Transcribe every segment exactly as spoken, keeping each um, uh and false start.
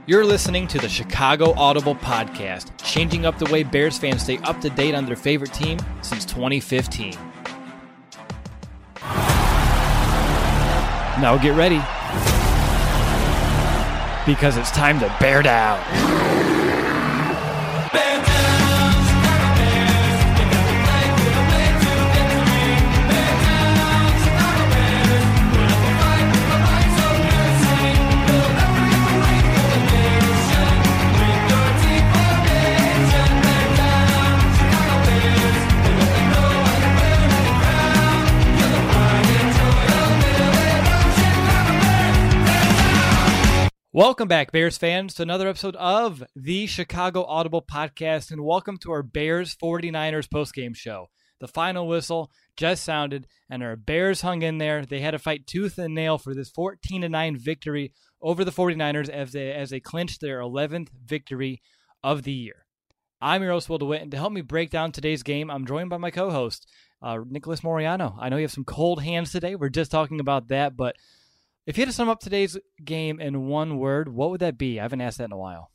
You're listening to the Chicago Audible Podcast, changing up the way Bears fans stay up to date on their favorite team since twenty fifteen. Now get ready, because it's time to bear down. Bear down. Welcome back, Bears fans, to another episode of the Chicago Audible Podcast, and welcome to our Bears forty-niners postgame show. The final whistle just sounded, and our Bears hung in there. They had to fight tooth and nail for this fourteen to nine victory over the forty-niners as they, as they clinched their eleventh victory of the year. I'm your host, Will DeWitt, and to help me break down today's game, I'm joined by my co-host, uh, Nicholas Moriano. I know you have some cold hands today. We're just talking about that, but if you had to sum up today's game in one word, what would that be? I haven't asked that in a while.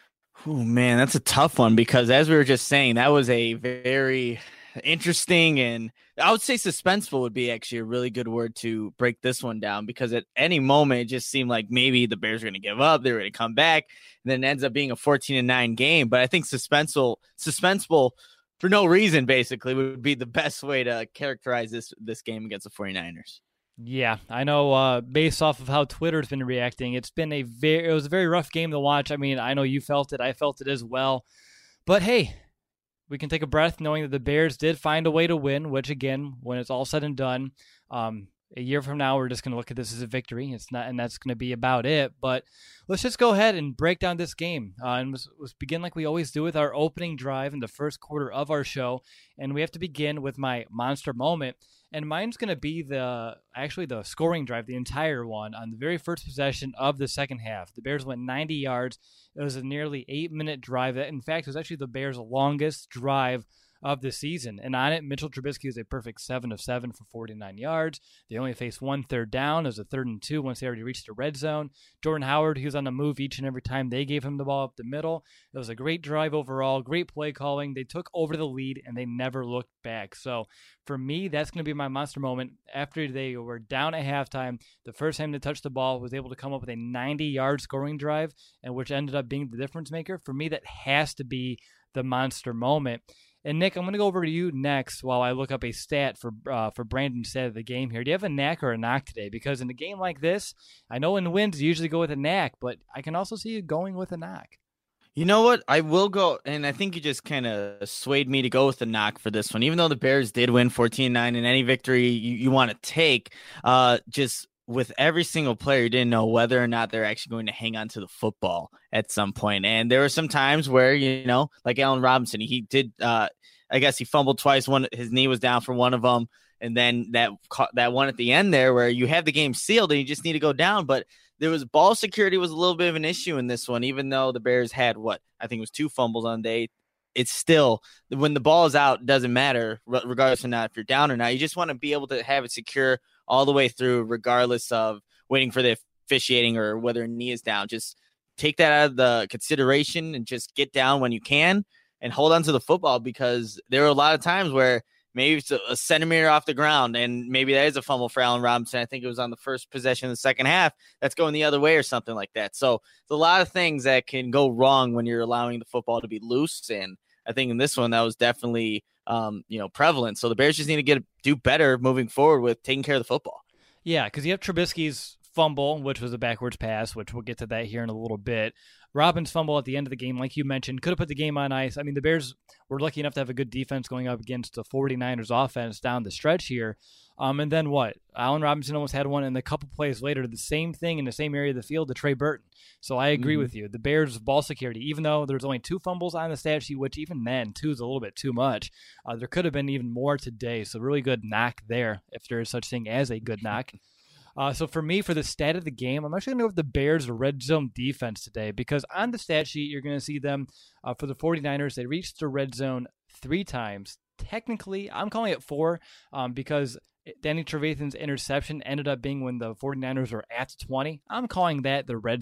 Oh, man, that's a tough one because as we were just saying, that was a very interesting and I would say suspenseful would be actually a really good word to break this one down because at any moment it just seemed like maybe the Bears were going to give up, they were going to come back, and then it ends up being a fourteen to nine game. But I think suspenseful, suspenseful for no reason basically would be the best way to characterize this this game against the forty-niners. Yeah, I know uh, based off of how Twitter's been reacting, it's been a very, it was a very rough game to watch. I mean, I know you felt it. I felt it as well. But hey, we can take a breath knowing that the Bears did find a way to win, which again, when it's all said and done, um, a year from now, we're just going to look at this as a victory. It's not, and that's going to be about it. But let's just go ahead and break down this game. Uh, and let's, let's begin like we always do with our opening drive in the first quarter of our show. And we have to begin with my monster moment. And mine's going to be the actually the scoring drive, the entire one, on the very first possession of the second half. The Bears went ninety yards. It was a nearly eight-minute drive. That, in fact, was actually the Bears' longest drive of the season. And on it, Mitchell Trubisky was a perfect seven of seven for forty-nine yards. They only faced one third down. It was a third and two once they already reached the red zone. Jordan Howard, he was on the move each and every time they gave him the ball up the middle. It was a great drive overall, great play calling. They took over the lead, and they never looked back. So for me, that's going to be my monster moment. After they were down at halftime, the first time they touched the ball, was able to come up with a ninety-yard scoring drive, and which ended up being the difference maker. For me, that has to be the monster moment. And Nick, I'm going to go over to you next while I look up a stat for uh, for Brandon's stat of the game here. Do you have a knack or a knock today? Because in a game like this, I know in wins you usually go with a knack, but I can also see you going with a knock. You know what? I will go, and I think you just kind of swayed me to go with the knock for this one. Even though the Bears did win fourteen nine, and any victory you, you want to take, uh, just with every single player, you didn't know whether or not they're actually going to hang on to the football at some point. And there were some times where, you know, like Allen Robinson, he did, uh, I guess he fumbled twice. One, his knee was down for one of them. And then that, that one at the end there where you have the game sealed and you just need to go down. But there was ball security was a little bit of an issue in this one, even though the Bears had what I think it was two fumbles on the day. It's still, when the ball is out, it doesn't matter regardless of not if you're down or not. You just want to be able to have it secure all the way through, regardless of waiting for the officiating or whether a knee is down. Just take that out of the consideration and just get down when you can and hold on to the football, because there are a lot of times where maybe it's a, a centimeter off the ground and maybe that is a fumble for Allen Robinson. I think it was on the first possession of the second half that's going the other way or something like that. So there's a lot of things that can go wrong when you're allowing the football to be loose. And I think in this one, that was definitely, um, you know, prevalent. So the Bears just need to get do better moving forward with taking care of the football. Yeah, because you have Trubisky's fumble, which was a backwards pass, which we'll get to that here in a little bit. Robin's fumble at the end of the game, like you mentioned, could have put the game on ice. I mean, the Bears were lucky enough to have a good defense going up against the forty-niners offense down the stretch here. Um, and then what? Allen Robinson almost had one, and a couple plays later, the same thing in the same area of the field to Trey Burton. So I agree mm-hmm. with you. The Bears' ball security, even though there's only two fumbles on the stat sheet, which even then, two is a little bit too much, uh, there could have been even more today. So really good knock there, if there is such thing as a good knock. Uh, so for me, for the stat of the game, I'm actually going to go with the Bears' red zone defense today, because on the stat sheet, you're going to see them uh, for the forty-niners. They reached the red zone three times. Technically, I'm calling it four um, because Danny Trevathan's interception ended up being when the forty-niners were at twenty. I'm calling that the red zone.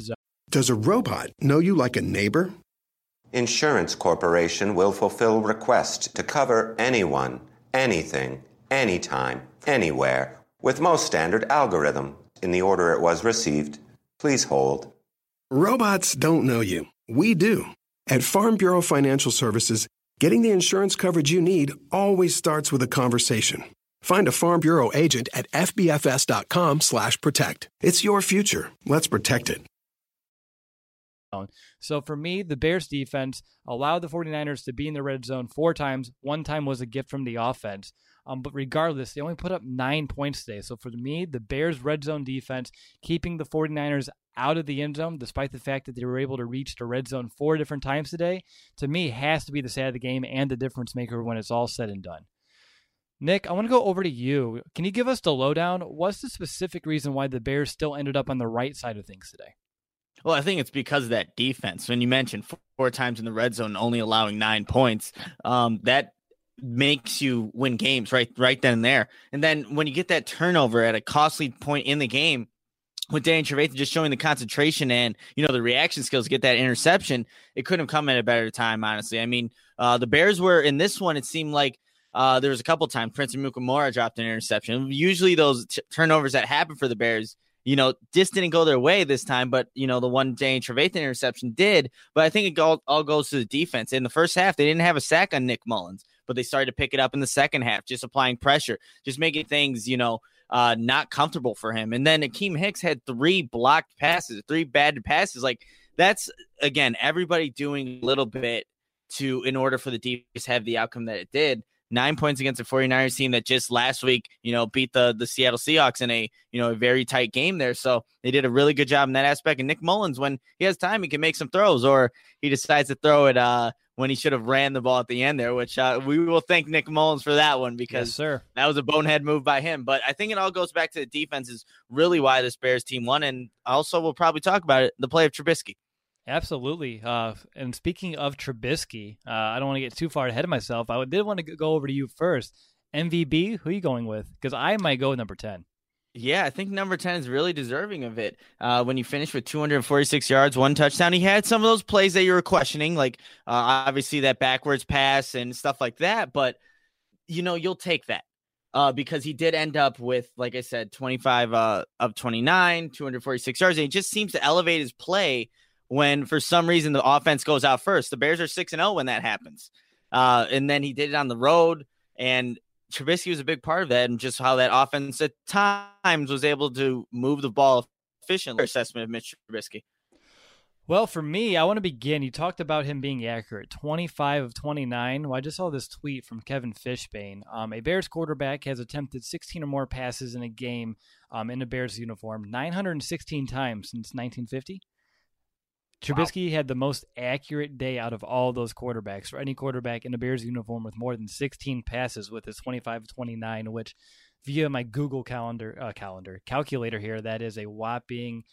Does a robot know you like a neighbor? Insurance Corporation will fulfill requests to cover anyone, anything, anytime, anywhere, with most standard algorithm in the order it was received. Please hold. Robots don't know you. We do. At Farm Bureau Financial Services, getting the insurance coverage you need always starts with a conversation. Find a Farm Bureau agent at fbfs.com slash protect. It's your future. Let's protect it. So for me, the Bears defense allowed the 49ers to be in the red zone four times. One time was a gift from the offense. Um, but regardless, they only put up nine points today. So for me, the Bears red zone defense, keeping the 49ers out of the end zone, despite the fact that they were able to reach the red zone four different times today, to me has to be the side of the game and the difference maker when it's all said and done. Nick, I want to go over to you. Can you give us the lowdown? What's the specific reason why the Bears still ended up on the right side of things today? Well, I think it's because of that defense. When you mentioned four, four times in the red zone, only allowing nine points, um, that makes you win games right, right then and there. And then when you get that turnover at a costly point in the game, with Danny Trevathan just showing the concentration and, you know, the reaction skills to get that interception, it couldn't have come at a better time, honestly. I mean, uh, the Bears were in this one. It seemed like uh, there was a couple times Prince Amukamara dropped an interception. Usually those t- turnovers that happen for the Bears, you know, just didn't go their way this time, but, you know, the one Danny Trevathan interception did. But I think it all, all goes to the defense. In the first half, they didn't have a sack on Nick Mullins, but they started to pick it up in the second half, just applying pressure, just making things, you know, uh, not comfortable for him. And then Akeem Hicks had three blocked passes, three bad passes. Like, that's, again, everybody doing a little bit to, in order for the defense to have the outcome that it did. Nine points against the 49ers team that just last week, you know, beat the, the Seattle Seahawks in a, you know, a very tight game there. So they did a really good job in that aspect. And Nick Mullins, when he has time, he can make some throws, or he decides to throw it uh, when he should have ran the ball at the end there, which uh, we will thank Nick Mullins for that one, because yes, sir. That was a bonehead move by him. But I think it all goes back to the defense is really why this Bears team won. And also we'll probably talk about it, the play of Trubisky. Absolutely. Uh, and speaking of Trubisky, uh, I don't want to get too far ahead of myself. I did want to go over to you first. M V B, who are you going with? Because I might go with number ten. Yeah, I think number ten is really deserving of it. Uh, when you finish with two hundred forty-six yards, one touchdown, he had some of those plays that you were questioning, like uh, obviously that backwards pass and stuff like that. But, you know, you'll take that. Uh, because he did end up with, like I said, twenty-five uh, of twenty-nine, two hundred forty-six yards. And he just seems to elevate his play when for some reason the offense goes out first. The Bears are six and oh when that happens. Uh, and then he did it on the road, and Trubisky was a big part of that, and just how that offense at times was able to move the ball efficiently. Assessment of Mitch Trubisky. Well, for me, I want to begin. You talked about him being accurate, twenty-five of twenty-nine. Well, I just saw this tweet from Kevin Fishbane. Um, a Bears quarterback has attempted sixteen or more passes in a game um, in a Bears uniform nine hundred sixteen times since nineteen fifty. Trubisky wow. had the most accurate day out of all those quarterbacks for any quarterback in a Bears uniform with more than sixteen passes with his twenty-five of twenty-nine, which via my Google calendar uh, calendar calculator here, that is a whopping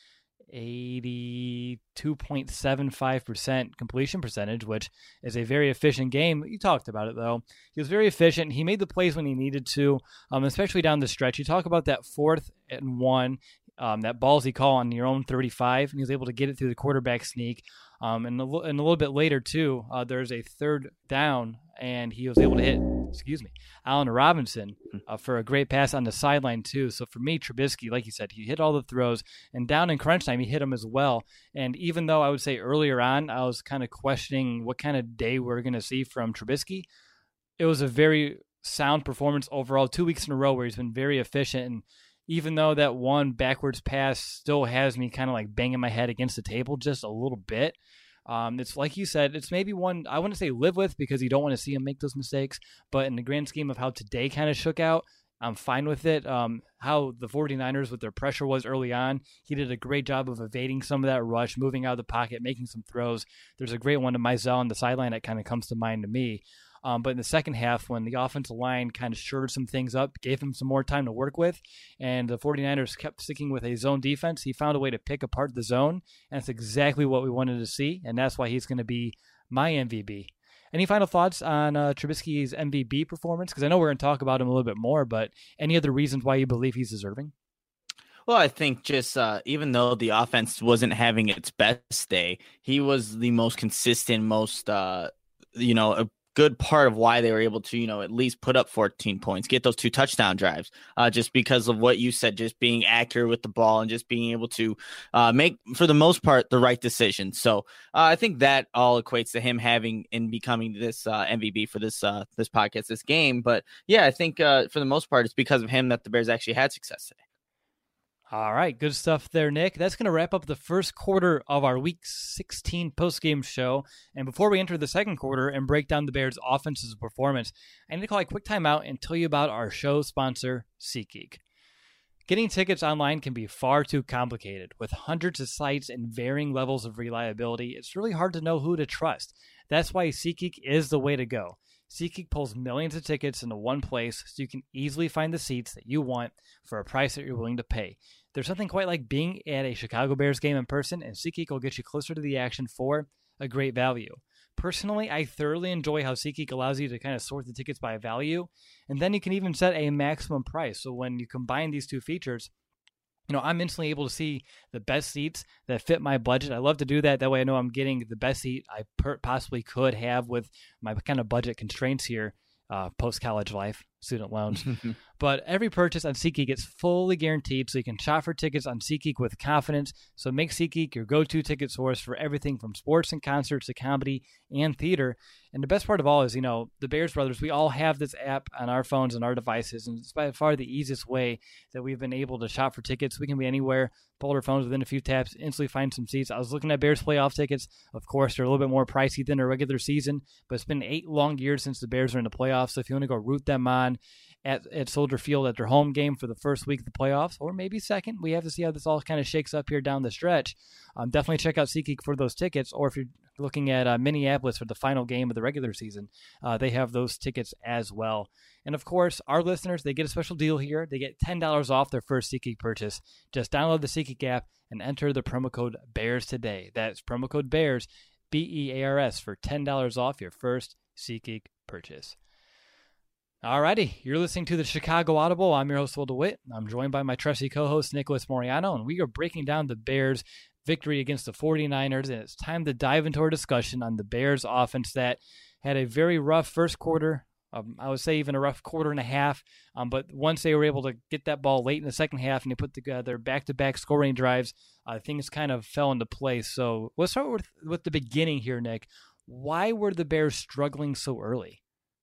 eighty-two point seven five percent completion percentage, which is a very efficient game. You talked about it, though. He was very efficient. He made the plays when he needed to, um, especially down the stretch. You talk about that fourth and one. Um, that ballsy call on your own thirty-five, and he was able to get it through the quarterback sneak. Um, and, a, and a little bit later, too, uh, there's a third down, and he was able to hit, excuse me, Allen Robinson uh, for a great pass on the sideline, too. So for me, Trubisky, like you said, he hit all the throws, and down in crunch time, he hit them as well. And even though I would say earlier on, I was kind of questioning what kind of day we're going to see from Trubisky, it was a very sound performance overall, two weeks in a row where he's been very efficient. And even though that one backwards pass still has me kind of like banging my head against the table just a little bit, um, it's like you said, it's maybe one I wouldn't say live with because you don't want to see him make those mistakes. But in the grand scheme of how today kind of shook out, I'm fine with it. Um, how the 49ers with their pressure was early on, he did a great job of evading some of that rush, moving out of the pocket, making some throws. There's a great one to Mizell on the sideline that kind of comes to mind to me. Um, but in the second half, when the offensive line kind of shored some things up, gave him some more time to work with, and the 49ers kept sticking with a zone defense, he found a way to pick apart the zone, and that's exactly what we wanted to see, and that's why he's going to be my M V B. Any final thoughts on uh, Trubisky's M V B performance? Because I know we're going to talk about him a little bit more, but any other reasons why you believe he's deserving? Well, I think just uh, even though the offense wasn't having its best day, he was the most consistent, most, uh, you know, a good part of why they were able to, you know, at least put up fourteen points, get those two touchdown drives, uh, just because of what you said, just being accurate with the ball and just being able to uh, make, for the most part, the right decision. So uh, I think that all equates to him having and becoming this uh, M V P for this uh, this podcast, this game. But yeah, I think uh, for the most part, it's because of him that the Bears actually had success today. All right, good stuff there, Nick. That's going to wrap up the first quarter of our Week sixteen postgame show. And before we enter the second quarter and break down the Bears' offense's performance, I need to call a quick timeout and tell you about our show sponsor, SeatGeek. Getting tickets online can be far too complicated. With hundreds of sites and varying levels of reliability, it's really hard to know who to trust. That's why SeatGeek is the way to go. SeatGeek pulls millions of tickets into one place so you can easily find the seats that you want for a price that you're willing to pay. There's something quite like being at a Chicago Bears game in person, and SeatGeek will get you closer to the action for a great value. Personally, I thoroughly enjoy how SeatGeek allows you to kind of sort the tickets by value, and then you can even set a maximum price. So when you combine these two features, you know, I'm instantly able to see the best seats that fit my budget. I love to do that. That way I know I'm getting the best seat I per- possibly could have with my kind of budget constraints here, uh, post-college life, student loans. But every purchase on SeatGeek gets fully guaranteed, so you can shop for tickets on SeatGeek with confidence. So make SeatGeek your go-to ticket source for everything from sports and concerts to comedy and theater. And the best part of all is, you know, the Bears Brothers, we all have this app on our phones and our devices, and it's by far the easiest way that we've been able to shop for tickets. We can be anywhere, pull our phones within a few taps, instantly find some seats. I was looking at Bears playoff tickets. Of course, they're a little bit more pricey than a regular season, but it's been eight long years since the Bears are in the playoffs. So if you want to go root them on at, at Soldier Field at their home game for the first week of the playoffs, or maybe second, we have to see how this all kind of shakes up here down the stretch. Um, definitely check out SeatGeek for those tickets, or if you're looking at uh, Minneapolis for the final game of the regular season, uh, they have those tickets as well. And of course, our listeners, they get a special deal here. They get ten dollars off their first SeatGeek purchase. Just download the SeatGeek app and enter the promo code BEARS today. That's promo code BEARS, B E A R S, for ten dollars off your first SeatGeek purchase. Alrighty, you're listening to the Chicago Audible. I'm your host, Will DeWitt. I'm joined by my trusty co-host, Nicholas Moriano, and we are breaking down the Bears' victory against the 49ers, and it's time to dive into our discussion on the Bears' offense that had a very rough first quarter. Um, I would say even a rough quarter and a half, um, but once they were able to get that ball late in the second half and they put together back-to-back scoring drives, uh, things kind of fell into place. So let's start with, with the beginning here, Nick. Why were the Bears struggling so early?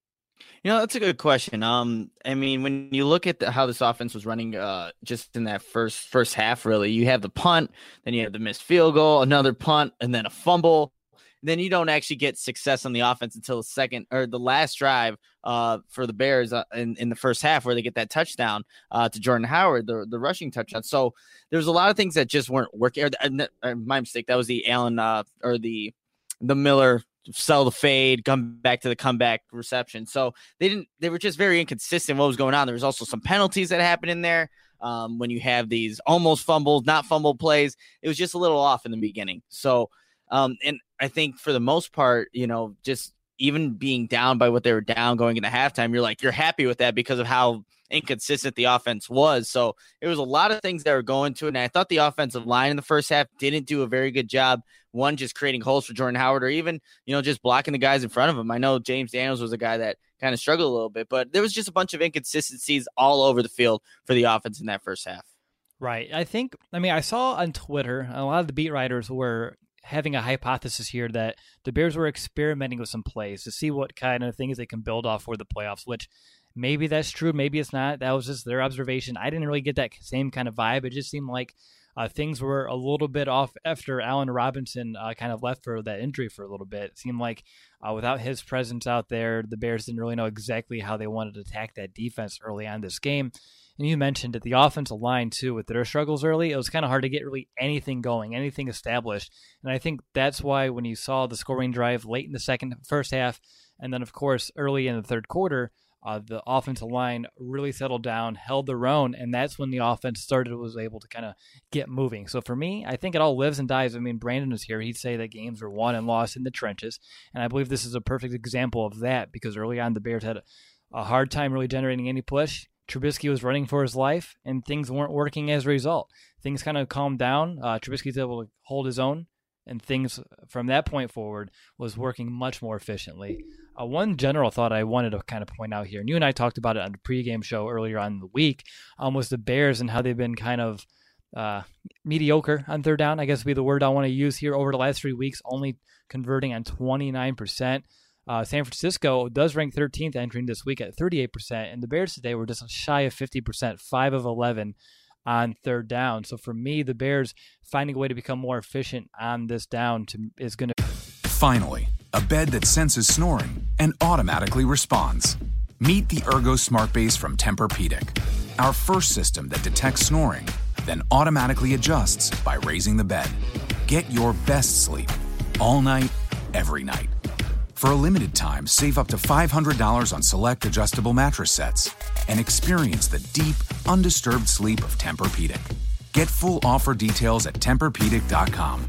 You know, that's a good question. Um, I mean, when you look at the, how this offense was running, uh, just in that first first half, really, you have the punt, then you have the missed field goal, another punt, and then a fumble. Then you don't actually get success on the offense until the second or the last drive uh, for the Bears uh, in, in the first half, where they get that touchdown uh, to Jordan Howard, the the rushing touchdown. So there's a lot of things that just weren't working. Or, uh, my mistake. That was the Allen uh, or the the Miller. Sell the fade, come back to the comeback reception. So they didn't, they were just very inconsistent what was going on. There was also some penalties that happened in there. Um, when you have these almost fumbled, not fumbled plays, it was just a little off in the beginning. So, um, and I think for the most part, you know, just even being down by what they were down going into halftime, you're like, you're happy with that because of how inconsistent the offense was. So it was a lot of things that were going to it. And I thought the offensive line in the first half didn't do a very good job. One, just creating holes for Jordan Howard, or even, you know, just blocking the guys in front of him. I know James Daniels was a guy that kind of struggled a little bit, but there was just a bunch of inconsistencies all over the field for the offense in that first half. Right. I think, I mean, I saw on Twitter, a lot of the beat writers were having a hypothesis here that the Bears were experimenting with some plays to see what kind of things they can build off for the playoffs, which maybe that's true, maybe it's not. That was just their observation. I didn't really get that same kind of vibe. It just seemed like uh, things were a little bit off after Allen Robinson uh, kind of left for that injury for a little bit. It seemed like uh, without his presence out there, the Bears didn't really know exactly how they wanted to attack that defense early on this game. And you mentioned that the offensive line, too, with their struggles early, it was kind of hard to get really anything going, anything established. And I think that's why when you saw the scoring drive late in the second, first half, and then, of course, early in the third quarter, uh, the offensive line really settled down, held their own, and that's when the offense started, was able to kind of get moving. So for me, I think it all lives and dies. I mean, Brandon was here. He'd say that games are won and lost in the trenches, and I believe this is a perfect example of that because early on the Bears had a, a hard time really generating any push. Trubisky was running for his life, and things weren't working as a result. Things kind of calmed down. Uh, Trubisky's able to hold his own, and things from that point forward was working much more efficiently. Uh, one general thought I wanted to kind of point out here, and you and I talked about it on the pregame show earlier on in the week, um, was the Bears and how they've been kind of uh, mediocre on third down, I guess would be the word I want to use here over the last three weeks, only converting on twenty-nine percent. Uh, San Francisco does rank thirteenth entering this week at thirty-eight percent, and the Bears today were just shy of fifty percent, five of eleven on third down. So for me, the Bears finding a way to become more efficient on this down to, is going to... Finally, a bed that senses snoring and automatically responds. Meet the Ergo Smart Base from Tempur-Pedic, our first system that detects snoring, then automatically adjusts by raising the bed. Get your best sleep all night, every night. For a limited time, save up to five hundred dollars on select adjustable mattress sets and experience the deep, undisturbed sleep of Tempur-Pedic. Get full offer details at Tempur Pedic dot com.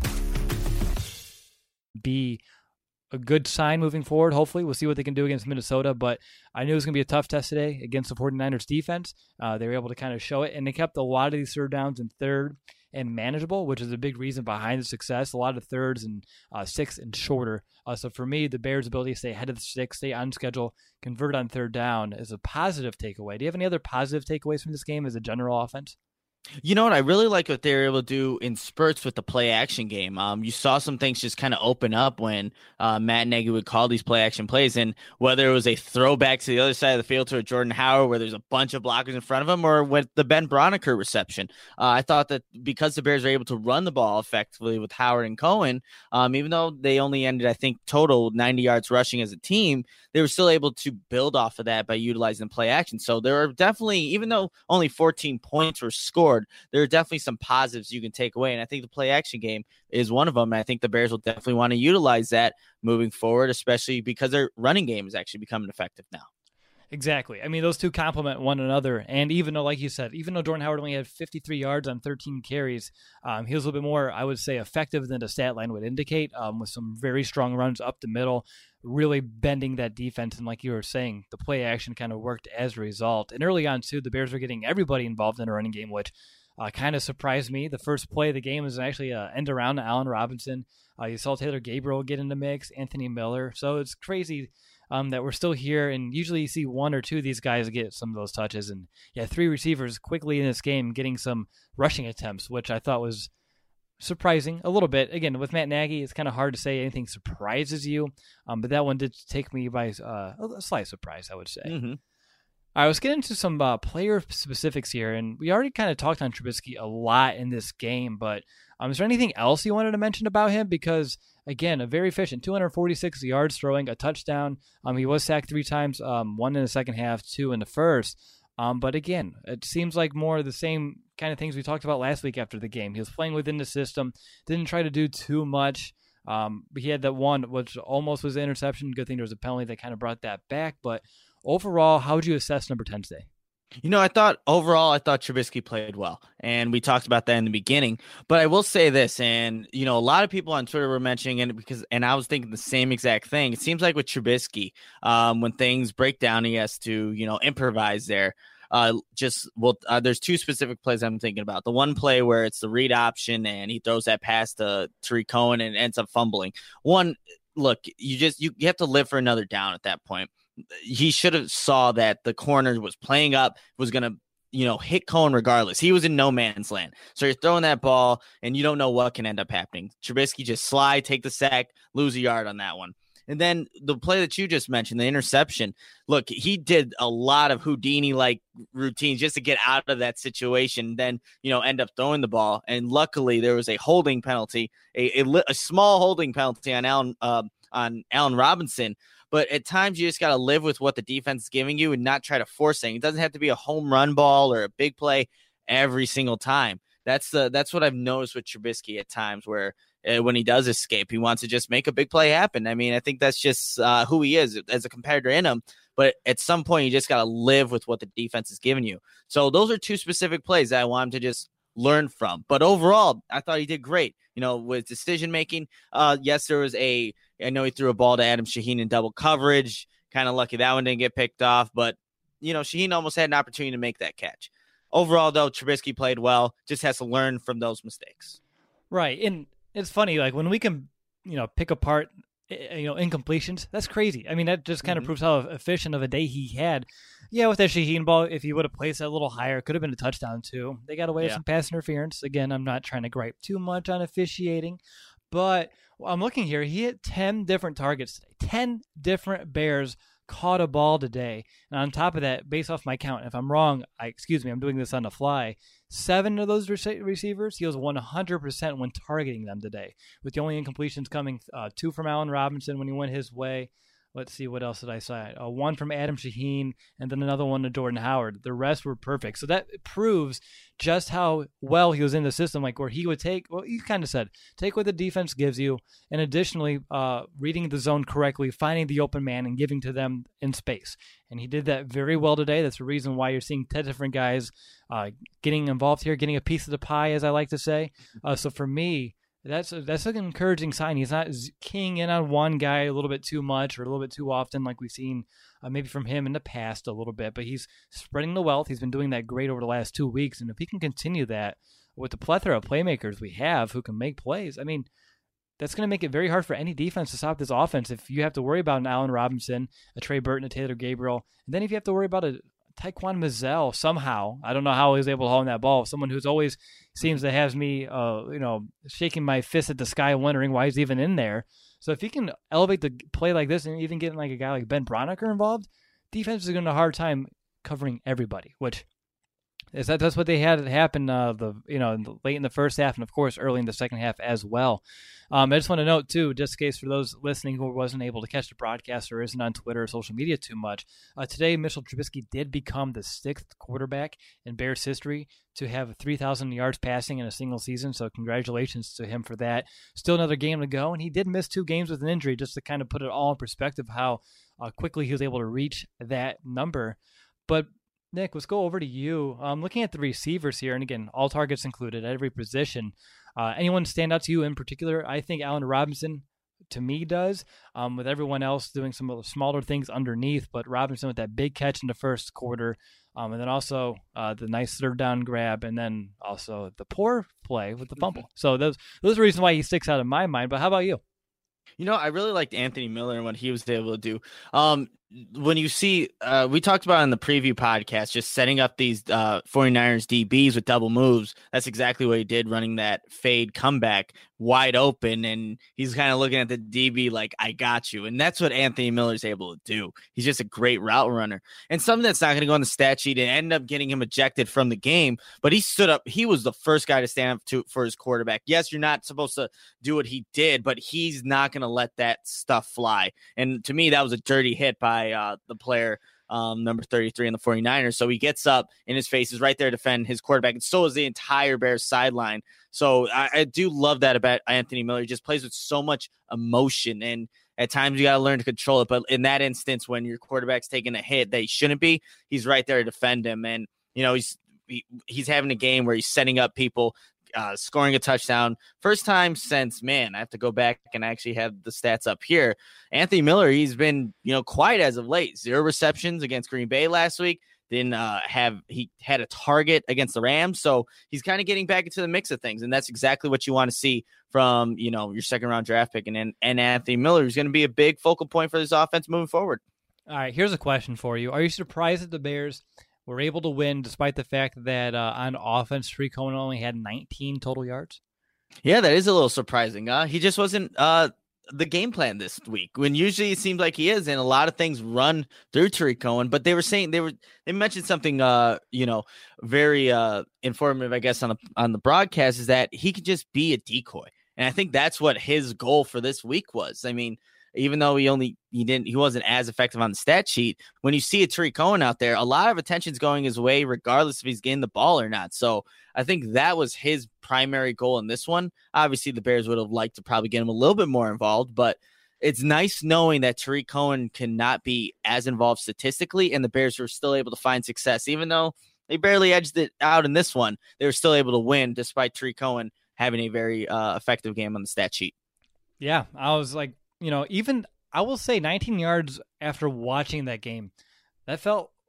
Be a good sign moving forward. Hopefully, we'll see what they can do against Minnesota, but I knew it was going to be a tough test today against the 49ers defense. Uh, they were able to kind of show it, and they kept a lot of these third downs in third and manageable, which is a big reason behind the success. A lot of thirds and uh, six and shorter. Uh, so for me, the Bears' ability to stay ahead of the sticks, stay on schedule, convert on third down is a positive takeaway. Do you have any other positive takeaways from this game as a general offense? You know what? I really like what they were able to do in spurts with the play action game. Um, you saw some things just kind of open up when uh, Matt Nagy would call these play action plays, and whether it was a throwback to the other side of the field to a Jordan Howard where there's a bunch of blockers in front of him, or with the Ben Broniker reception. Uh, I thought that because the Bears were able to run the ball effectively with Howard and Cohen, um, even though they only ended, I think, total ninety yards rushing as a team, they were still able to build off of that by utilizing play action. So there are definitely, even though only fourteen points were scored, there are definitely some positives you can take away. And I think the play action game is one of them. And I think the Bears will definitely want to utilize that moving forward, especially because their running game is actually becoming effective now. Exactly. I mean, those two complement one another. And even though, like you said, even though Jordan Howard only had fifty-three yards on thirteen carries, um, he was a little bit more, I would say, effective than the stat line would indicate, um, with some very strong runs up the middle, really bending that defense. And like you were saying, the play action kind of worked as a result. And early on, too, the Bears were getting everybody involved in a running game, which Uh, kind of surprised me. The first play of the game was actually an end around to Allen Robinson. Uh, you saw Taylor Gabriel get in the mix, Anthony Miller. So it's crazy um, that we're still here. And usually you see one or two of these guys get some of those touches. And yeah, three receivers quickly in this game getting some rushing attempts, which I thought was surprising a little bit. Again, with Matt Nagy, it's kind of hard to say anything surprises you. Um, but that one did take me by uh, a slight surprise, I would say. Mm-hmm. All right, let's get into some uh, player specifics here, and we already kind of talked on Trubisky a lot in this game, but um, is there anything else you wanted to mention about him? Because, again, a very efficient, two hundred forty-six yards throwing, a touchdown. Um, he was sacked three times, um, one in the second half, two in the first. Um, but, again, it seems like more of the same kind of things we talked about last week after the game. He was playing within the system, didn't try to do too much. Um, he had that one, which almost was an interception. Good thing there was a penalty that kind of brought that back, but overall, how would you assess number ten today? You know, I thought overall, I thought Trubisky played well, and we talked about that in the beginning. But I will say this, and you know, a lot of people on Twitter were mentioning it because, and I was thinking the same exact thing. It seems like with Trubisky, um, when things break down, he has to, you know, improvise there. Uh, just well, uh, there's two specific plays I'm thinking about. The one play where it's the read option, and he throws that pass to Tariq Cohen and ends up fumbling. One, look, you just you, you have to live for another down at that point. He should have saw that the corner was playing up, was going to, you know, hit Cohen regardless. He was in no man's land. So you're throwing that ball and you don't know what can end up happening. Trubisky just slide, take the sack, lose a yard on that one. And then the play that you just mentioned, the interception, look, he did a lot of Houdini-like routines just to get out of that situation, then, you know, end up throwing the ball. And luckily there was a holding penalty, a, a, a small holding penalty on Allen, uh, on Allen Robinson. But at times you just got to live with what the defense is giving you and not try to force things. It doesn't have to be a home run ball or a big play every single time. That's the that's what I've noticed with Trubisky at times where uh, when he does escape, he wants to just make a big play happen. I mean, I think that's just uh, who he is as a competitor in him. But at some point, you just got to live with what the defense is giving you. So those are two specific plays that I want him to just learn from. But overall, I thought he did great. You know, with decision making. Uh, yes, there was a. I know he threw a ball to Adam Shaheen in double coverage. Kind of lucky that one didn't get picked off. But you know, Shaheen almost had an opportunity to make that catch. Overall, though, Trubisky played well, just has to learn from those mistakes. Right. And it's funny, like when we can, you know, pick apart, you know, incompletions, that's crazy. I mean, that just kind of mm-hmm. proves how efficient of a day he had. Yeah, with that Shaheen ball, if he would have placed that a little higher, it could have been a touchdown too. They got away yeah. with some pass interference. Again, I'm not trying to gripe too much on officiating, but I'm looking here. He hit ten different targets today. ten different Bears caught a ball today. And on top of that, based off my count, if I'm wrong, I excuse me, I'm doing this on the fly. Seven of those rec- receivers, he was one hundred percent when targeting them today, with the only incompletions coming uh, two from Allen Robinson when he went his way. Let's see, what else did I say? Uh, one from Adam Shaheen, and then another one to Jordan Howard. The rest were perfect. So that proves just how well he was in the system, like where he would take, well, you kind of said, take what the defense gives you, and additionally, uh, reading the zone correctly, finding the open man, and giving to them in space. And he did that very well today. That's the reason why you're seeing ten different guys uh, getting involved here, getting a piece of the pie, as I like to say. Uh, so for me, That's a, that's an encouraging sign. He's not keying in on one guy a little bit too much or a little bit too often like we've seen uh, maybe from him in the past a little bit, but he's spreading the wealth. He's been doing that great over the last two weeks, and if he can continue that with the plethora of playmakers we have who can make plays, I mean, that's going to make it very hard for any defense to stop this offense if you have to worry about an Allen Robinson, a Trey Burton, a Taylor Gabriel, and then if you have to worry about a Taquan Mizzell somehow. I don't know how he was able to hold that ball. Someone who's always seems to have me, uh, you know, shaking my fist at the sky, wondering why he's even in there. So if he can elevate the play like this, and even getting like a guy like Ben Braunecker involved, defense is going to have a hard time covering everybody. Which is that that's what they had happen. Uh, the you know in the, late in the first half, and of course early in the second half as well. Um, I just want to note, too, just in case for those listening who wasn't able to catch the broadcast or isn't on Twitter or social media too much, uh, today Mitchell Trubisky did become the sixth quarterback in Bears history to have three thousand yards passing in a single season, so congratulations to him for that. Still another game to go, and he did miss two games with an injury, just to kind of put it all in perspective how uh, quickly he was able to reach that number. But Nick, let's go over to you. Um, looking at the receivers here, and again, all targets included at every position. Uh, anyone stand out to you in particular? I think Allen Robinson, to me, does, um, with everyone else doing some of the smaller things underneath, but Robinson with that big catch in the first quarter, um, and then also uh, the nice third down grab, and then also the poor play with the fumble. So those those are reasons why he sticks out in my mind, but how about you? You know, I really liked Anthony Miller and what he was able to do. Um, when you see, uh, we talked about in the preview podcast, just setting up these uh, 49ers D Bs with double moves. That's exactly what he did, running that fade comeback wide open. And he's kind of looking at the D B like, I got you. And that's what Anthony Miller is able to do. He's just a great route runner. And something that's not going to go on the stat sheet and end up getting him ejected from the game. But he stood up. He was the first guy to stand up to, for his quarterback. Yes, you're not supposed to do what he did, but he's not going to let that stuff fly. And to me, that was a dirty hit by uh, the player, um, number thirty-three in the 49ers. So he gets up in his face, is right there to defend his quarterback. And so is the entire Bears sideline. So I, I do love that about Anthony Miller. He just plays with so much emotion. And at times you got to learn to control it. But in that instance, when your quarterback's taking a hit that he shouldn't be, he's right there to defend him. And, you know, he's, he, he's having a game where he's setting up people, Uh, scoring a touchdown. First time since, man, I have to go back and actually have the stats up here. Anthony Miller, he's been, you know, quiet as of late. Zero receptions against Green Bay last week. Didn't uh, have, he had a target against the Rams. So he's kind of getting back into the mix of things. And that's exactly what you want to see from, you know, your second round draft pick. And, and Anthony Miller is going to be a big focal point for this offense moving forward. All right, here's a question for you. Are you surprised that the Bears were able to win despite the fact that uh, on offense, Tarik Cohen only had nineteen total yards? Yeah, that is a little surprising. Uh, he just wasn't uh, the game plan this week, when usually it seems like he is, and a lot of things run through Tarik Cohen. But they were saying they were they mentioned something, uh, you know, very uh, informative, I guess, on the on the broadcast, is that he could just be a decoy, and I think that's what his goal for this week was. I mean, even though he only he didn't he wasn't as effective on the stat sheet, when you see a Tarik Cohen out there, a lot of attention's going his way, regardless if he's getting the ball or not. So I think that was his primary goal in this one. Obviously, the Bears would have liked to probably get him a little bit more involved, but it's nice knowing that Tarik Cohen cannot be as involved statistically, and the Bears were still able to find success, even though they barely edged it out in this one. They were still able to win despite Tarik Cohen having a very uh, effective game on the stat sheet. Yeah, I was like, you know, even I will say nineteen yards after watching that game, that felt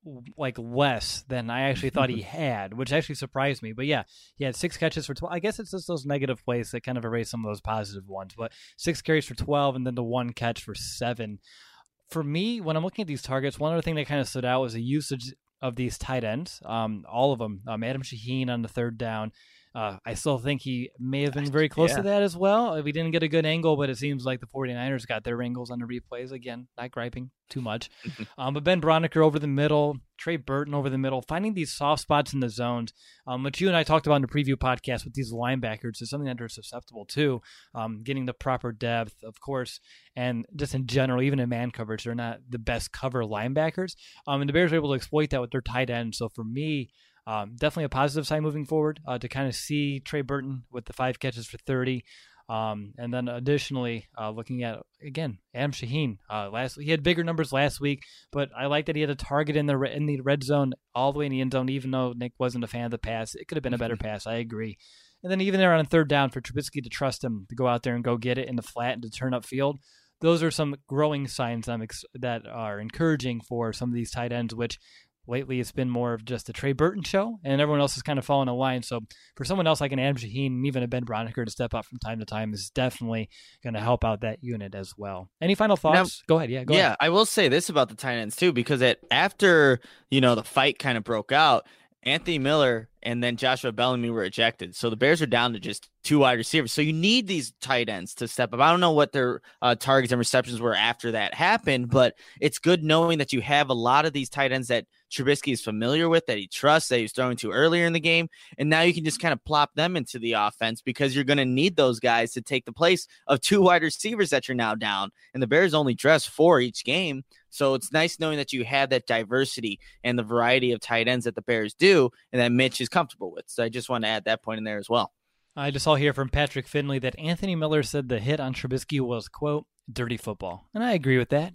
like less than I actually thought he had, which actually surprised me. But yeah, he had six catches for twelve. I guess it's just those negative plays that kind of erase some of those positive ones. But six carries for twelve, and then the one catch for seven. For me, when I'm looking at these targets, one other thing that kind of stood out was the usage of these tight ends. Um, all of them. Um, Adam Shaheen on the third down. Uh, I still think he may have been very close yeah. to that as well. We didn't get a good angle, but it seems like the 49ers got their angles on the replays. Again, not griping too much. um, but Ben Broniker over the middle, Trey Burton over the middle, finding these soft spots in the zones, um, which you and I talked about in the preview podcast with these linebackers is something that they're susceptible to, um, getting the proper depth, of course, and just in general, even in man coverage, they're not the best cover linebackers. Um, and the Bears were able to exploit that with their tight end. So for me, Um, definitely a positive sign moving forward uh, to kind of see Trey Burton with the five catches for thirty. Um, and then additionally, uh, looking at, again, Adam Shaheen. Uh, last he had bigger numbers last week, but I like that he had a target in the re- in the red zone all the way in the end zone, even though Nick wasn't a fan of the pass. It could have been a better pass. I agree. And then even there on third down for Trubisky to trust him to go out there and go get it in the flat and to turn up field. Those are some growing signs I'm ex- that are encouraging for some of these tight ends, which lately, it's been more of just a Trey Burton show, and everyone else is kind of following a line. So for someone else like an Adam Shaheen and even a Ben Broniker to step up from time to time is definitely going to help out that unit as well. Any final thoughts? Now, go ahead. Yeah, go yeah, ahead. I will say this about the tight ends too, because it, after, you know, the fight kind of broke out, Anthony Miller and then Joshua Bellamy were ejected. So the Bears are down to just two wide receivers. So you need these tight ends to step up. I don't know what their uh, targets and receptions were after that happened, but it's good knowing that you have a lot of these tight ends that Trubisky is familiar with, that he trusts, that he was throwing to earlier in the game. And now you can just kind of plop them into the offense because you're going to need those guys to take the place of two wide receivers that you're now down. And the Bears only dress four each game. So it's nice knowing that you have that diversity and the variety of tight ends that the Bears do and that Mitch is comfortable with. So I just want to add that point in there as well. I just saw here from Patrick Finley that Anthony Miller said the hit on Trubisky was, quote, dirty football. And I agree with that.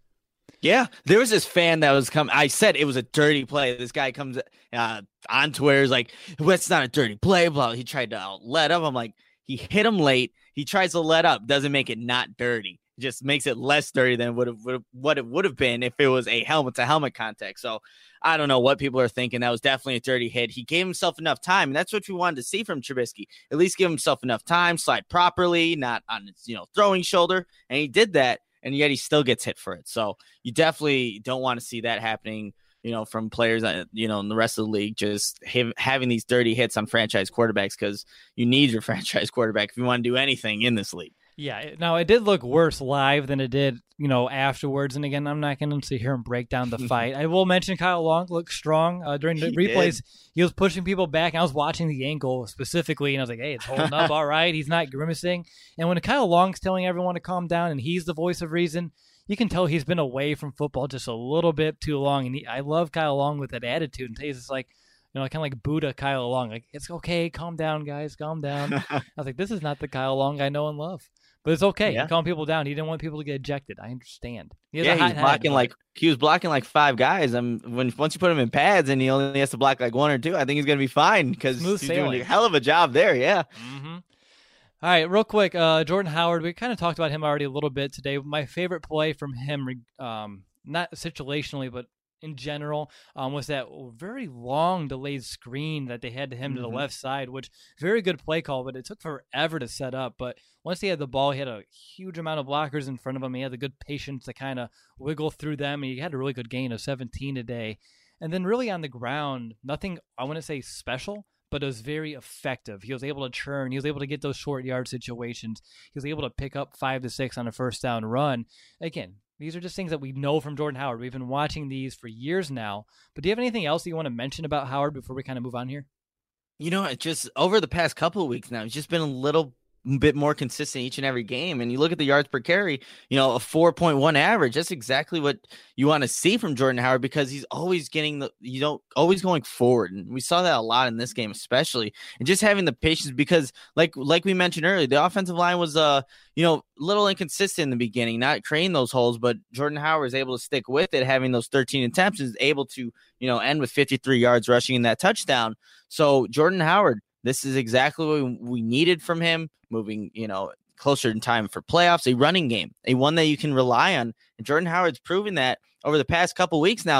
Yeah, there was this fan that was coming. I said it was a dirty play. This guy comes uh, on Twitter, is like, well, it's not a dirty play. Blah. He tried to let up. I'm like, he hit him late. He tries to let up. Doesn't make it not dirty. It just makes it less dirty than would have, what it would have been if it was a helmet to helmet contact. So I don't know what people are thinking. That was definitely a dirty hit. He gave himself enough time, and that's what we wanted to see from Trubisky. At least give himself enough time, slide properly, not on his, you know, throwing shoulder. And he did that. And yet he still gets hit for it. So you definitely don't want to see that happening, you know, from players, you know, in the rest of the league, just have, having these dirty hits on franchise quarterbacks, because you need your franchise quarterback if you want to do anything in this league. Yeah, now it did look worse live than it did, you know, afterwards. And again, I'm not going to sit here and break down the fight. I will mention Kyle Long looked strong uh, during the he replays. Did. He was pushing people back. I was watching the ankle specifically, and I was like, hey, it's holding up all right. He's not grimacing. And when Kyle Long's telling everyone to calm down and he's the voice of reason, you can tell he's been away from football just a little bit too long. And he, I love Kyle Long with that attitude. And he's just like, you know, kind of like Buddha Kyle Long. Like, it's okay. Calm down, guys. Calm down. I was like, this is not the Kyle Long I know and love. But it's okay. Yeah. He calmed people down. He didn't want people to get ejected. I understand. He yeah, he's blocking like he was blocking like five guys. I'm when once you put him in pads and he only has to block like one or two, I think he's gonna be fine because he's sailing. doing a hell of a job there. Yeah. Mm-hmm. All right, real quick, uh, Jordan Howard. We kind of talked about him already a little bit today. My favorite play from him, um, not situationally, but in general, um, was that very long delayed screen that they had to him mm-hmm. to the left side, which very good play call, but it took forever to set up. But once he had the ball, he had a huge amount of blockers in front of him. He had the good patience to kind of wiggle through them. And he had a really good gain of seventeen today. And then really on the ground, nothing, I want to say special, but it was very effective. He was able to churn. He was able to get those short yard situations. He was able to pick up five to six on a first down run. Again, these are just things that we know from Jordan Howard. We've been watching these for years now. But do you have anything else that you want to mention about Howard before we kind of move on here? You know, it just over the past couple of weeks now, he's just been a little bit more consistent each and every game. And you look at the yards per carry, you know, a four point one average. That's exactly what you want to see from Jordan Howard, because he's always getting the, you know, always going forward. And we saw that a lot in this game, especially, and just having the patience, because like, like we mentioned earlier, the offensive line was, uh, you know, a little inconsistent in the beginning, not creating those holes, but Jordan Howard is able to stick with it, having those thirteen attempts, is able to, you know, end with fifty-three yards rushing in that touchdown. So Jordan Howard, this is exactly what we needed from him, moving, you know, closer in time for playoffs, a running game, a one that you can rely on. And Jordan Howard's proven that over the past couple weeks now, that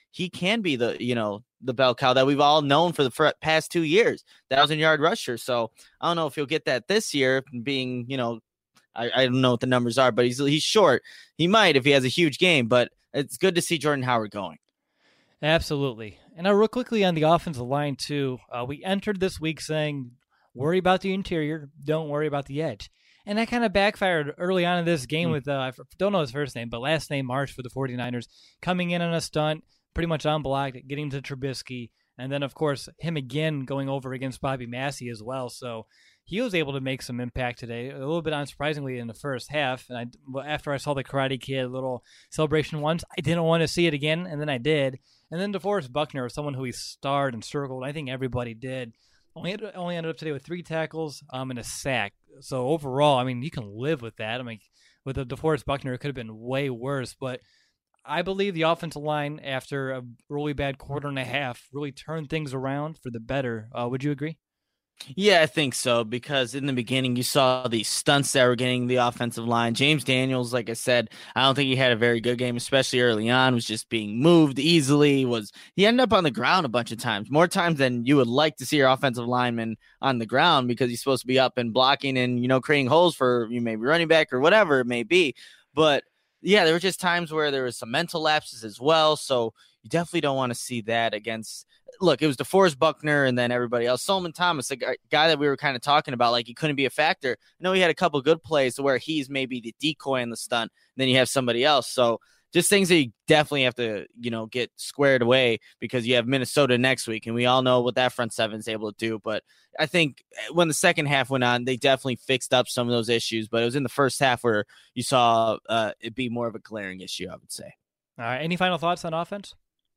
he can be the, you know, the bell cow that we've all known for the past two years, thousand yard rusher. So I don't know if he'll get that this year, being, you know, I, I don't know what the numbers are, but he's he's short. He might if he has a huge game, but it's good to see Jordan Howard going. Absolutely. And now real quickly on the offensive line too, uh, we entered this week saying, worry about the interior, don't worry about the edge. And that kind of backfired early on in this game mm. with, uh, I don't know his first name, but last name Marsh for the 49ers, coming in on a stunt, pretty much unblocked, getting to Trubisky, and then, of course, him again going over against Bobby Massey as well. So he was able to make some impact today, a little bit unsurprisingly in the first half. And I, after I saw the Karate Kid little celebration once, I didn't want to see it again, and then I did. And then DeForest Buckner was someone who he starred and circled. I think everybody did. Only only ended up today with three tackles um, and a sack. So overall, I mean, you can live with that. I mean, with the DeForest Buckner, it could have been way worse. But I believe the offensive line, after a really bad quarter and a half, really turned things around for the better. Uh, would you agree? Yeah, I think so, because in the beginning you saw these stunts that were getting the offensive line. James Daniels, like I said, I don't think he had a very good game, especially early on, was just being moved easily. Was He ended up on the ground a bunch of times, more times than you would like to see your offensive lineman on the ground, because he's supposed to be up and blocking and, you know, creating holes for you maybe running back or whatever it may be. But yeah, there were just times where there was some mental lapses as well. So you definitely don't want to see that against – look, it was DeForest Buckner and then everybody else. Solomon Thomas, a guy that we were kind of talking about, like he couldn't be a factor. I know he had a couple good plays where he's maybe the decoy in the stunt, and then you have somebody else. So just things that you definitely have to, you know, get squared away, because you have Minnesota next week, and we all know what that front seven is able to do. But I think when the second half went on, they definitely fixed up some of those issues. But it was in the first half where you saw uh, it be more of a glaring issue, I would say. All right. Any final thoughts on offense?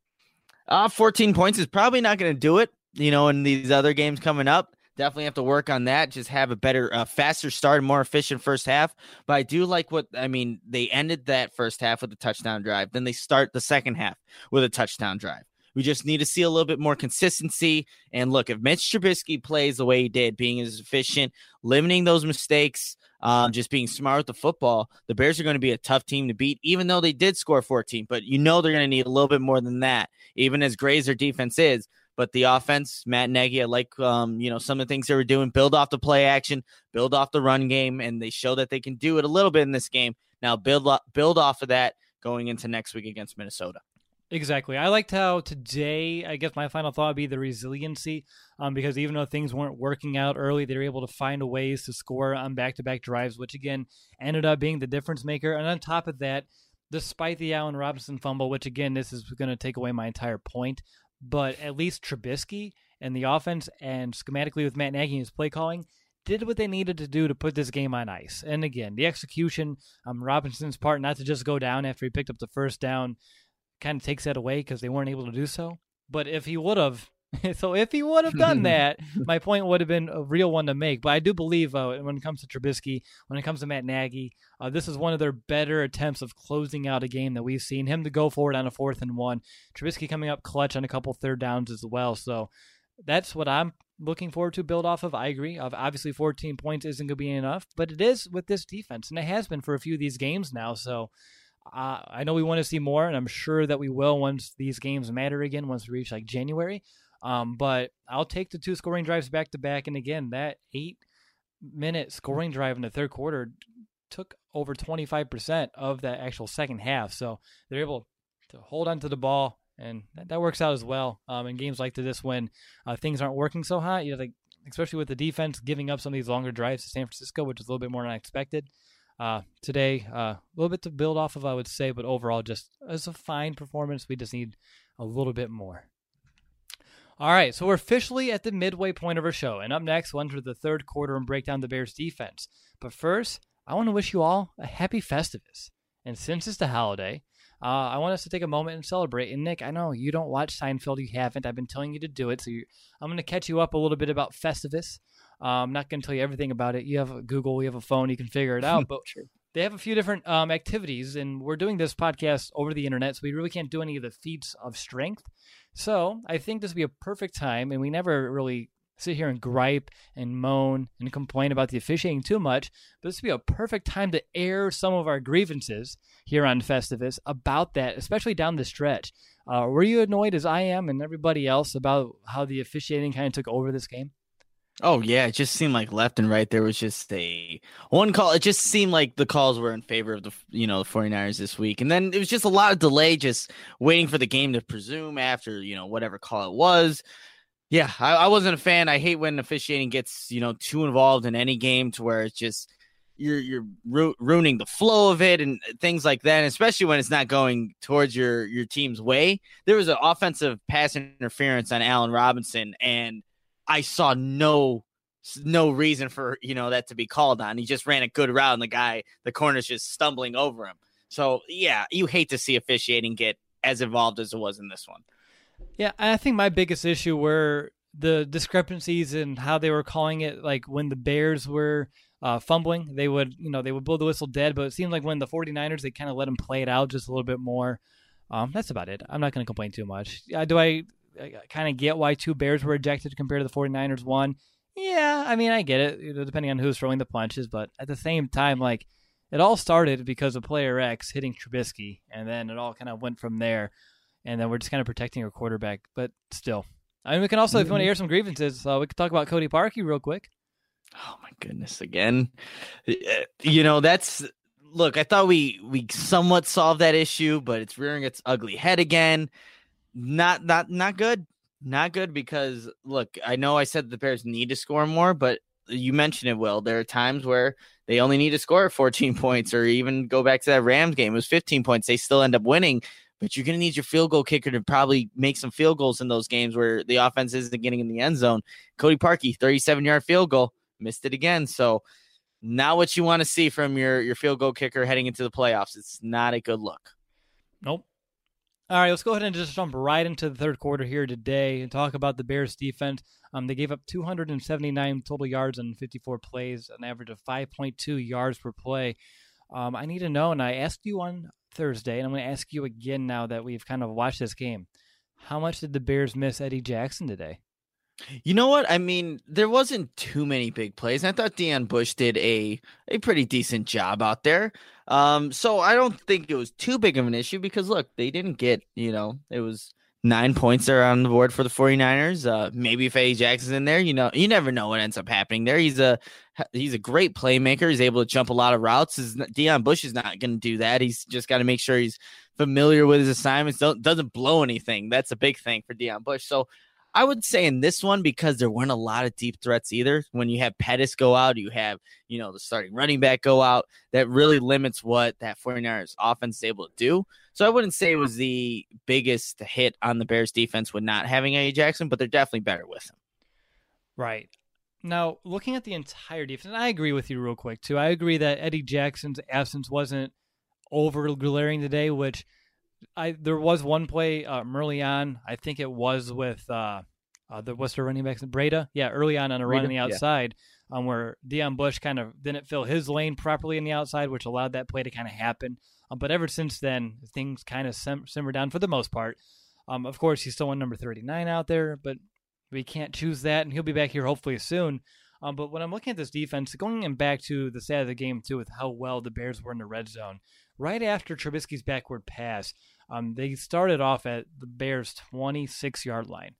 Uh, fourteen points is probably not going to do it, you know, in these other games coming up. Definitely have to work on that. Just have a better, uh, faster start and more efficient first half. But I do like what, I mean, they ended that first half with a touchdown drive. Then they start the second half with a touchdown drive. We just need to see a little bit more consistency. And look, if Mitch Trubisky plays the way he did, being as efficient, limiting those mistakes, um, just being smart with the football, the Bears are going to be a tough team to beat, even though they did score fourteen. But you know they're going to need a little bit more than that, even as great as their defense is. But the offense, Matt Nagy, I like um, you know, some of the things they were doing, build off the play action, build off the run game, and they show that they can do it a little bit in this game. Now build build off of that going into next week against Minnesota. Exactly. I liked how today, I guess my final thought would be the resiliency, um, because even though things weren't working out early, they were able to find ways to score on back-to-back drives, which again ended up being the difference maker. And on top of that, despite the Allen Robinson fumble, which again, this is going to take away my entire point, but at least Trubisky and the offense, and schematically with Matt Nagy and his play calling, did what they needed to do to put this game on ice. And again, the execution, um, Robinson's part not to just go down after he picked up the first down, kind of takes that away because they weren't able to do so. But if he would have, so if he would have done that, my point would have been a real one to make. But I do believe uh, when it comes to Trubisky, when it comes to Matt Nagy, uh, this is one of their better attempts of closing out a game that we've seen. Him to go forward on a fourth and one. Trubisky coming up clutch on a couple third downs as well. So that's what I'm looking forward to build off of. I agree. Obviously, fourteen points isn't going to be enough, but it is with this defense, and it has been for a few of these games now. So Uh, I know we want to see more, and I'm sure that we will once these games matter again, once we reach like January. Um, but I'll take the two scoring drives back to back. And again, that eight minute scoring drive in the third quarter took over twenty-five percent of that actual second half. So they're able to hold on to the ball, and that, that works out as well. Um, in games like this, when uh, things aren't working so hot, you know, like, especially with the defense giving up some of these longer drives to San Francisco, which is a little bit more unexpected. Uh, today, uh, a little bit to build off of, I would say, but overall, just as a fine performance, we just need a little bit more. All right, so we're officially at the midway point of our show, and up next, we'll enter the third quarter and break down the Bears' defense. But first, I want to wish you all a happy Festivus. And since it's the holiday, uh, I want us to take a moment and celebrate. And Nick, I know you don't watch Seinfeld, you haven't. I've been telling you to do it, so you, I'm going to catch you up a little bit about Festivus. Uh, I'm not going to tell you everything about it. You have a Google, you have a phone, you can figure it out. But True. They have a few different um, activities, and we're doing this podcast over the internet, so we really can't do any of the feats of strength. So I think this would be a perfect time, and we never really sit here and gripe and moan and complain about the officiating too much, but this would be a perfect time to air some of our grievances here on Festivus about that, especially down the stretch. Uh, were you annoyed as I am and everybody else about how the officiating kind of took over this game? Oh, yeah. It just seemed like left and right. There was just a one call. It just seemed like the calls were in favor of the, you know, the 49ers this week. And then it was just a lot of delay, just waiting for the game to presume after, you know, whatever call it was. Yeah, I, I wasn't a fan. I hate when officiating gets, you know, too involved in any game to where it's just you're you're ru- ruining the flow of it and things like that, and especially when it's not going towards your your team's way. There was an offensive pass interference on Allen Robinson, and I saw no no reason for, you know, that to be called on. He just ran a good route, and the guy, the corner's just stumbling over him. So, yeah, you hate to see officiating get as involved as it was in this one. Yeah, I think my biggest issue were the discrepancies in how they were calling it. Like when the Bears were uh, fumbling, they would, you know, they would blow the whistle dead. But it seemed like when the 49ers, they kind of let them play it out just a little bit more. Um, that's about it. I'm not going to complain too much. Uh, do I, I kind of get why two Bears were ejected compared to the 49ers one? Yeah, I mean, I get it, you know, depending on who's throwing the punches. But at the same time, like, it all started because of player X hitting Trubisky, and then it all kind of went from there. And then we're just kind of protecting our quarterback. But still, I mean, we can also, if you want to air some grievances, uh, we could talk about Cody Parkey real quick. Oh, my goodness. Again, you know, that's look, I thought we we somewhat solved that issue, but it's rearing its ugly head again. Not not not good. Not good because, look, I know I said the Bears need to score more, but you mentioned it, Will. There are times where they only need to score fourteen points, or even go back to that Rams game. It was fifteen points. They still end up winning. But you're going to need your field goal kicker to probably make some field goals in those games where the offense isn't getting in the end zone. Cody Parkey, thirty-seven-yard field goal, missed it again. So not what you want to see from your, your field goal kicker heading into the playoffs. It's not a good look. Nope. All right, let's go ahead and just jump right into the third quarter here today and talk about the Bears defense. Um, they gave up two hundred seventy-nine total yards on fifty-four plays, an average of five point two yards per play. Um, I need to know, and I asked you on Thursday, and I'm going to ask you again now that we've kind of watched this game. How much did the Bears miss Eddie Jackson today? You know what? I mean, there wasn't too many big plays. I thought Deon Bush did a, a pretty decent job out there. Um, so I don't think it was too big of an issue because, look, they didn't get, you know, it was nine points there on the board for the 49ers. Uh, maybe if Eddie Jackson's in there, you know, you never know what ends up happening there. He's a he's a great playmaker. He's able to jump a lot of routes. Deon Bush is not going to do that. He's just got to make sure he's familiar with his assignments. Don't, doesn't blow anything. That's a big thing for Deon Bush. So I would say in this one, because there weren't a lot of deep threats either, when you have Pettis go out, you have, you know, the starting running back go out, that really limits what that 49ers offense is able to do. So I wouldn't say it was the biggest hit on the Bears defense with not having Eddie Jackson, but they're definitely better with him. Right. Now, looking at the entire defense, and I agree with you real quick, too. I agree that Eddie Jackson's absence wasn't over glaring today, which I there was one play um, early on. I think it was with uh, uh, the what's the running back? Breda? Yeah, early on on a Breda, run on the outside yeah. um, where Deon Bush kind of didn't fill his lane properly in the outside, which allowed that play to kind of happen. Um, but ever since then, things kind of sim- simmer down for the most part. Um, of course, he's still on number thirty-nine out there, but we can't choose that, and he'll be back here hopefully soon. Um, but when I'm looking at this defense, going back to the side of the game, too, with how well the Bears were in the red zone, right after Trubisky's backward pass, um, they started off at the Bears' twenty-six-yard line,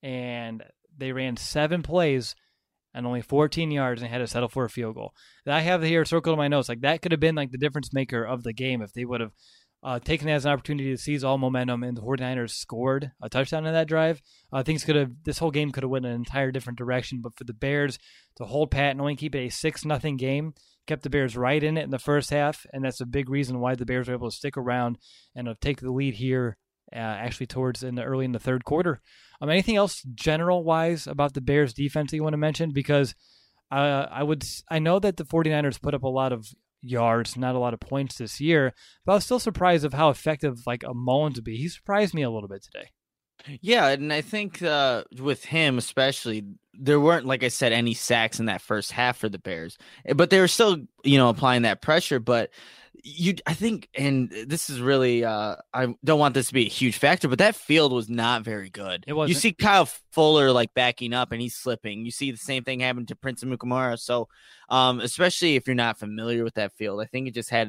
and they ran seven plays and only fourteen yards and had to settle for a field goal. I have here circled in my notes. Like, that could have been like the difference maker of the game if they would have uh, taken it as an opportunity to seize all momentum, and the 49ers scored a touchdown in that drive. Uh, things could have, this whole game could have went an entire different direction, but for the Bears to hold pat and only keep it a six nothing game kept the Bears right in it in the first half, and that's a big reason why the Bears were able to stick around and uh, take the lead here uh, actually towards in the early in the third quarter. Um, anything else general-wise about the Bears defense that you want to mention? Because uh, I would, I know that the 49ers put up a lot of yards, not a lot of points this year, but I was still surprised of how effective like a Mullins would be. He surprised me a little bit today. Yeah, and I think uh, with him especially, there weren't, like I said, any sacks in that first half for the Bears, but they were still, you know, applying that pressure. But you, I think, and this is really, uh, I don't want this to be a huge factor, but that field was not very good. It wasn't. You see Kyle Fuller like backing up and he's slipping. You see the same thing happen to Prince Amukamara. So, um, especially if you're not familiar with that field, I think it just had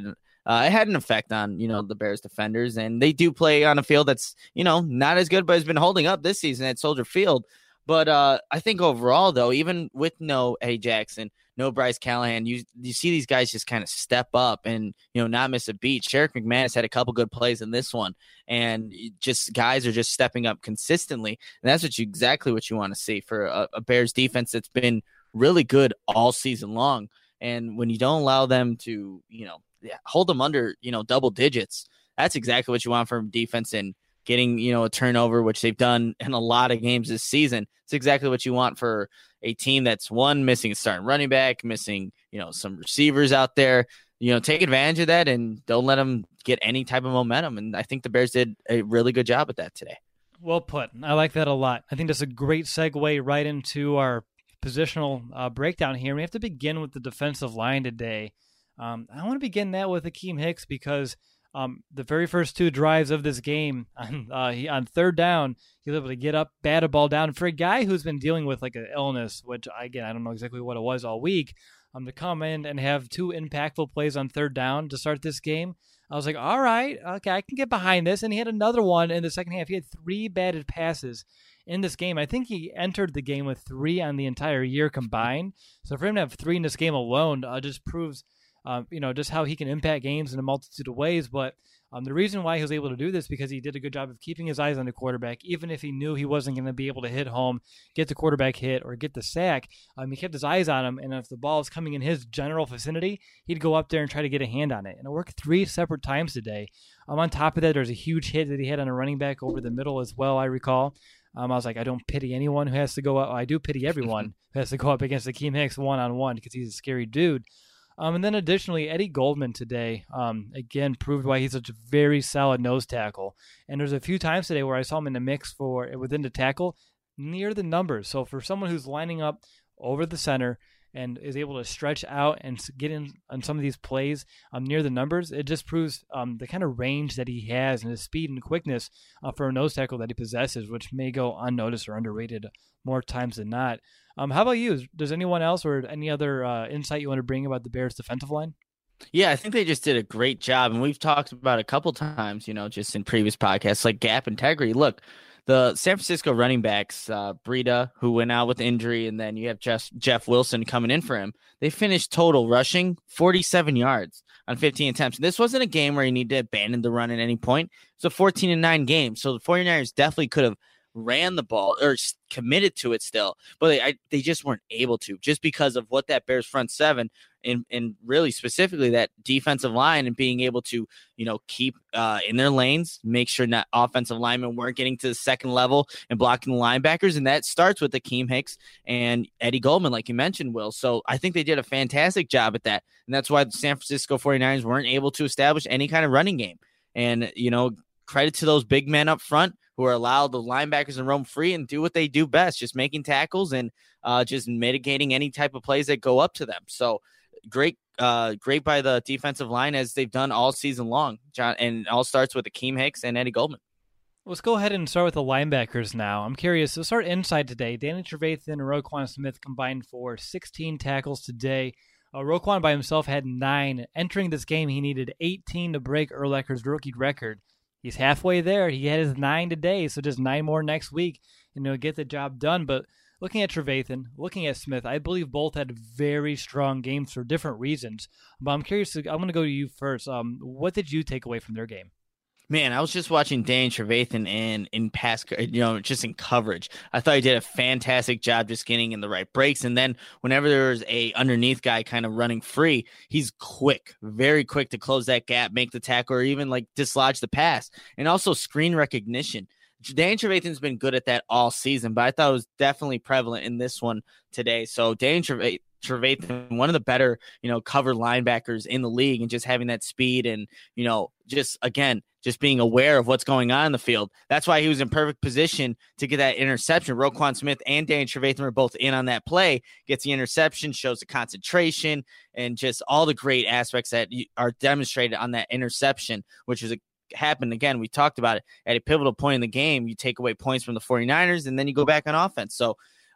uh, it had an effect on, you know, the Bears defenders. And they do play on a field that's, you know, not as good, but has been holding up this season at Soldier Field. But uh, I think overall, though, even with no Eddie Jackson, no Bryce Callahan, you you see these guys just kind of step up and, you know, not miss a beat. Sherrick McManus had a couple good plays in this one, and just guys are just stepping up consistently. And that's what you exactly what you want to see for a, a Bears defense that's been really good all season long. And when you don't allow them to, you know, hold them under, you know, double digits, that's exactly what you want from defense. And getting, you know, a turnover, which they've done in a lot of games this season. It's exactly what you want for a team that's, one, missing a starting running back, missing, you know, some receivers out there. You know, take advantage of that and don't let them get any type of momentum. And I think the Bears did a really good job at that today. Well put. I like that a lot. I think that's a great segue right into our positional uh, breakdown here. We have to begin with the defensive line today. Um, I want to begin that with Akiem Hicks because Um, the very first two drives of this game, on, uh, he, on third down, he was able to get up, bat a ball down. For a guy who's been dealing with like an illness, which, again, I don't know exactly what it was all week, um, to come in and have two impactful plays on third down to start this game, I was like, all right, okay, I can get behind this. And he had another one in the second half. He had three batted passes in this game. I think he entered the game with three on the entire year combined. So for him to have three in this game alone uh, just proves Um, you know, just how he can impact games in a multitude of ways. But um, the reason why he was able to do this because he did a good job of keeping his eyes on the quarterback, even if he knew he wasn't going to be able to hit home, get the quarterback hit, or get the sack. Um, he kept his eyes on him, and if the ball is coming in his general vicinity, he'd go up there and try to get a hand on it. And it worked three separate times today. Um, on top of that, there's a huge hit that he had on a running back over the middle as well, I recall. Um, I was like, I don't pity anyone who has to go up. I do pity everyone who has to go up against Akiem Hicks one-on-one because he's a scary dude. Um, and then additionally, Eddie Goldman today, um, again, proved why he's such a very solid nose tackle. And there's a few times today where I saw him in the mix for within the tackle near the numbers. So for someone who's lining up over the center and is able to stretch out and get in on some of these plays um, near the numbers, it just proves um, the kind of range that he has and his speed and quickness uh, for a nose tackle that he possesses, which may go unnoticed or underrated more times than not. Um, how about you? Does anyone else or any other uh, insight you want to bring about the Bears' defensive line? Yeah, I think they just did a great job. And we've talked about a couple times, you know, just in previous podcasts, like gap integrity. Look, the San Francisco running backs, uh, Breida, who went out with injury, and then you have Jeff, Jeff Wilson coming in for him. They finished total rushing forty-seven yards on fifteen attempts. And this wasn't a game where you need to abandon the run at any point. It's a fourteen and nine game. So the 49ers definitely could have ran the ball or committed to it still, but they I, they just weren't able to, just because of what that Bears front seven and and really specifically that defensive line and being able to, you know, keep uh, in their lanes, make sure that offensive linemen weren't getting to the second level and blocking the linebackers. And that starts with Akiem Hicks and Eddie Goldman, like you mentioned, Will. So I think they did a fantastic job at that. And that's why the San Francisco 49ers weren't able to establish any kind of running game. And, you know, credit to those big men up front who are allowed the linebackers to roam free and do what they do best, just making tackles and uh, just mitigating any type of plays that go up to them. So great, uh, great by the defensive line as they've done all season long. John, and it all starts with Akiem Hicks and Eddie Goldman. Let's go ahead and start with the linebackers now. I'm curious. Let's start inside today. Danny Trevathan and Roquan Smith combined for sixteen tackles today. Uh, Roquan by himself had nine. Entering this game, he needed eighteen to break Urlacher's rookie record. He's halfway there. He had his nine today, so just nine more next week, and he'll get the job done. But looking at Trevathan, looking at Smith, I believe both had very strong games for different reasons. But I'm curious. I'm going to go to you first. Um, what did you take away from their game? Man, I was just watching Danny Trevathan in in pass, you know, just in coverage. I thought he did a fantastic job just getting in the right breaks. And then whenever there's a underneath guy kind of running free, he's quick, very quick to close that gap, make the tackle, or even like dislodge the pass. And also screen recognition. Danny Trevathan's been good at that all season, but I thought it was definitely prevalent in this one today. So Danny Trevathan, Trevathan, one of the better, you know, cover linebackers in the league, and just having that speed and, you know, just again, just being aware of what's going on in the field. That's why he was in perfect position to get that interception. Roquan Smith and Danny Trevathan were both in on that play, gets the interception, shows the concentration, and just all the great aspects that are demonstrated on that interception, which is a happened again. We talked about it at a pivotal point in the game. You take away points from the 49ers and then you go back on offense. So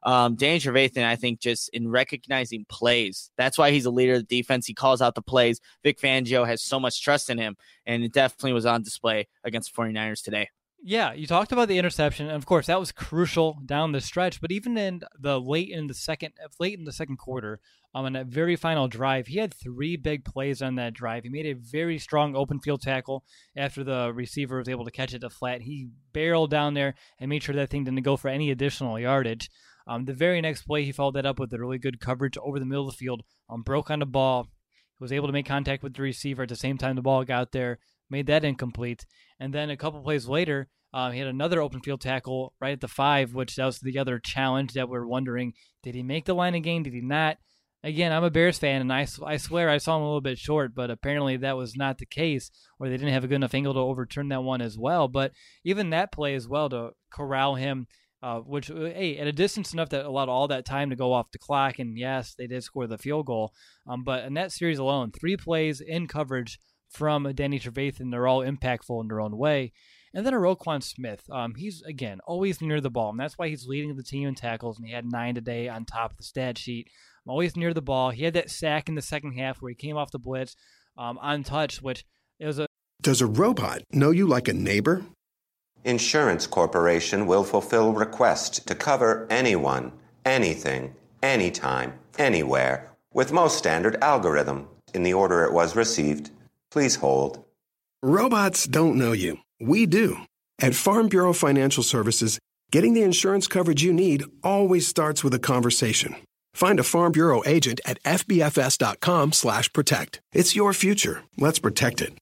Um, Danny Trevathan, I think, just in recognizing plays, that's why he's a leader of the defense. He calls out the plays. Vic Fangio has so much trust in him, and it definitely was on display against the 49ers today. Yeah, you talked about the interception, and of course that was crucial down the stretch. But even in the late in the second, late in the second quarter, um, on that very final drive, he had three big plays on that drive. He made a very strong open field tackle after the receiver was able to catch it to flat. He barreled down there and made sure that thing didn't go for any additional yardage. Um, the very next play, he followed that up with a really good coverage over the middle of the field. Um, broke on the ball, he was able to make contact with the receiver at the same time the ball got there. Made that incomplete. And then a couple plays later, um, he had another open field tackle right at the five, which that was the other challenge that we're wondering, did he make the line of game? Did he not? Again, I'm a Bears fan, and I, I swear I saw him a little bit short, but apparently that was not the case, or they didn't have a good enough angle to overturn that one as well. But even that play as well to corral him, uh, which, hey, at a distance enough that allowed all that time to go off the clock, and yes, they did score the field goal. Um, but in that series alone, three plays in coverage from Danny Trevathan, they're all impactful in their own way. And then a Roquan Smith, um, he's, again, always near the ball, and that's why he's leading the team in tackles, and he had nine today on top of the stat sheet. Always near the ball. He had that sack in the second half where he came off the blitz um, untouched, which it was a... Does a robot know you like a neighbor? Insurance Corporation will fulfill requests to cover anyone, anything, anytime, anywhere, with most standard algorithm in the order it was received. Please hold. Robots don't know you. We do. At Farm Bureau Financial Services, getting the insurance coverage you need always starts with a conversation. Find a Farm Bureau agent at fbfs.com slash protect. It's your future. Let's protect it.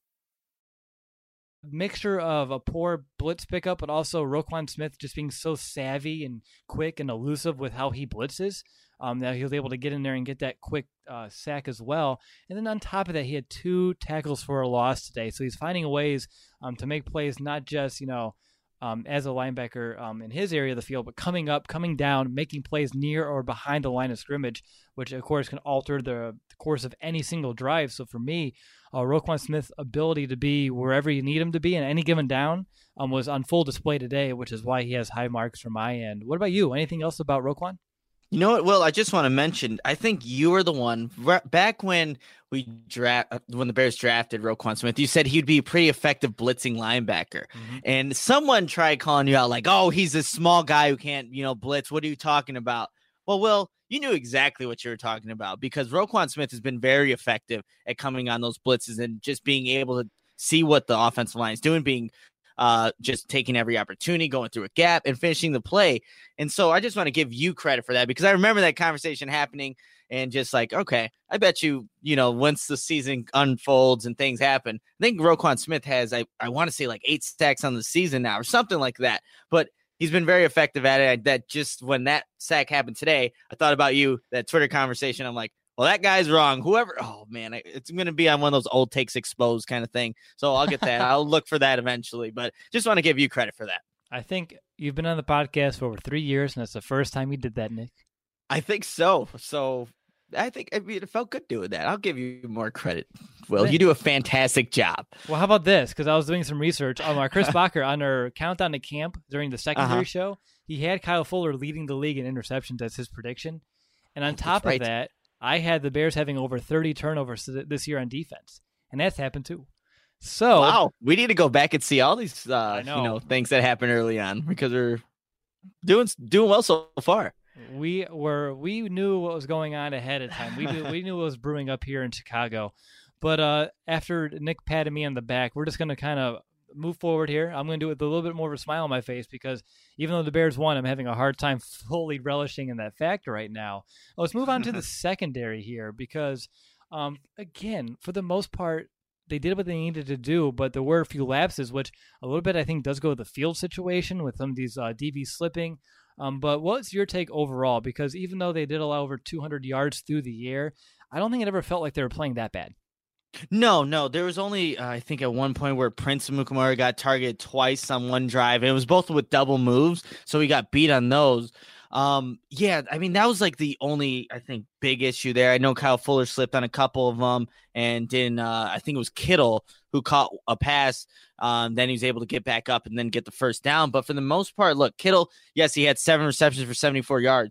Mixture of a poor blitz pickup, but also Roquan Smith just being so savvy and quick and elusive with how he blitzes, um, that he was able to get in there and get that quick uh, sack as well. And then on top of that, he had two tackles for a loss today. So he's finding ways um, to make plays, not just, you know, Um, as a linebacker um, in his area of the field, but coming up, coming down, making plays near or behind the line of scrimmage, which of course can alter the, the course of any single drive. So for me, uh, Roquan Smith's ability to be wherever you need him to be in any given down um, was on full display today, which is why he has high marks from my end. What about you? Anything else about Roquan? You know what, Will? I just want to mention, I think you were the one back when we draft when the Bears drafted Roquan Smith. You said he'd be a pretty effective blitzing linebacker, mm-hmm. and someone tried calling you out like, "Oh, he's a small guy who can't, you know, blitz. What are you talking about?" Well, Will, you knew exactly what you were talking about because Roquan Smith has been very effective at coming on those blitzes and just being able to see what the offensive line is doing, being uh, just taking every opportunity, going through a gap and finishing the play. And so I just want to give you credit for that because I remember that conversation happening and just like, okay, I bet you, you know, once the season unfolds and things happen, I think Roquan Smith has, I, I want to say like eight sacks on the season now or something like that, but he's been very effective at it. That just when that sack happened today, I thought about you, that Twitter conversation. I'm like, well, that guy's wrong. Whoever, oh man, it's going to be on one of those old takes exposed kind of thing. So I'll get that. I'll look for that eventually, but just want to give you credit for that. I think you've been on the podcast for over three years, and that's the first time you did that, Nick. I think so. So I think I mean, it felt good doing that. I'll give you more credit. Will, you do a fantastic job. Well, how about this? Because I was doing some research on our Chris Bacher on our countdown to camp during the secondary uh-huh. show. He had Kyle Fuller leading the league in interceptions as his prediction. And on top right. of that, I had the Bears having over thirty turnovers this year on defense, and that's happened too. So wow, we need to go back and see all these uh, know. you know things that happened early on because we're doing doing well so far. We were we knew what was going on ahead of time. We knew we knew what was brewing up here in Chicago. But uh, after Nick patted me on the back, we're just going to kind of move forward here. I'm going to do it with a little bit more of a smile on my face because even though the Bears won, I'm having a hard time fully relishing in that fact right now. Let's move on to the secondary here because, um, again, for the most part, they did what they needed to do, but there were a few lapses, which a little bit I think does go with the field situation with some of these uh, D Bs slipping. Um, but what's your take overall? Because even though they did allow over two hundred yards through the air, I don't think it ever felt like they were playing that bad. No, no. There was only, uh, I think, at one point where Prince Amukamara got targeted twice on one drive. And it was both with double moves, so he got beat on those. Um, yeah, I mean, that was like the only, I think, big issue there. I know Kyle Fuller slipped on a couple of them, and then uh, I think it was Kittle who caught a pass. Um, then he was able to get back up and then get the first down. But for the most part, look, Kittle, yes, he had seven receptions for seventy-four yards.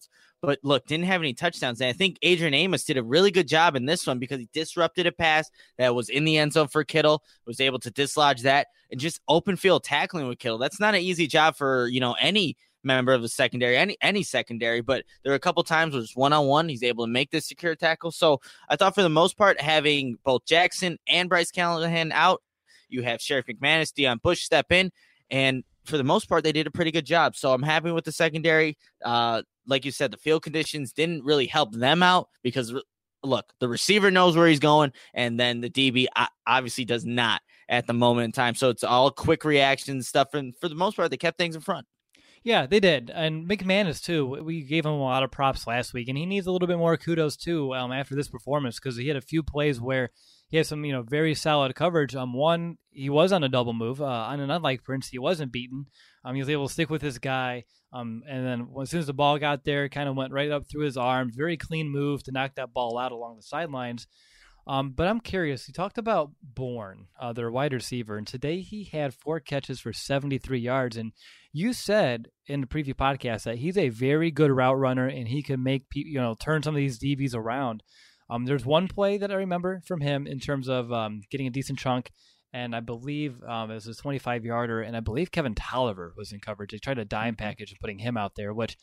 but look, didn't have any touchdowns. And I think Adrian Amos did a really good job in this one because he disrupted a pass that was in the end zone for Kittle, was able to dislodge that, and just open field tackling with Kittle. That's not an easy job for, you know, any member of the secondary, any any secondary, but there are a couple times where it's one-on-one. He's able to make this secure tackle. So I thought for the most part, having both Jackson and Bryce Callahan out, you have Sheriff McManus, Deion Bush step in, and for the most part, they did a pretty good job. So I'm happy with the secondary. Uh, like you said, the field conditions didn't really help them out because, look, the receiver knows where he's going, and then the D B obviously does not at the moment in time. So it's all quick reaction stuff, and for the most part, they kept things in front. Yeah, they did. And McManus, too. We gave him a lot of props last week, and he needs a little bit more kudos, too, um, after this performance, because he had a few plays where he had some, you know, very solid coverage. Um, one, he was on a double move. Uh, on an unlike Prince, he wasn't beaten. Um, he was able to stick with his guy. Um, and then as soon as the ball got there, it kind of went right up through his arms. Very clean move to knock that ball out along the sidelines. Um, but I'm curious. You talked about Bourne, uh, their wide receiver, and today he had four catches for seventy-three yards. And you said in the preview podcast that he's a very good route runner and he can make pe- you know turn some of these D Bs around. Um, there's one play that I remember from him in terms of um, getting a decent chunk, and I believe um, it was a twenty-five yarder, and I believe Kevin Tolliver was in coverage. They tried a dime package and putting him out there, which.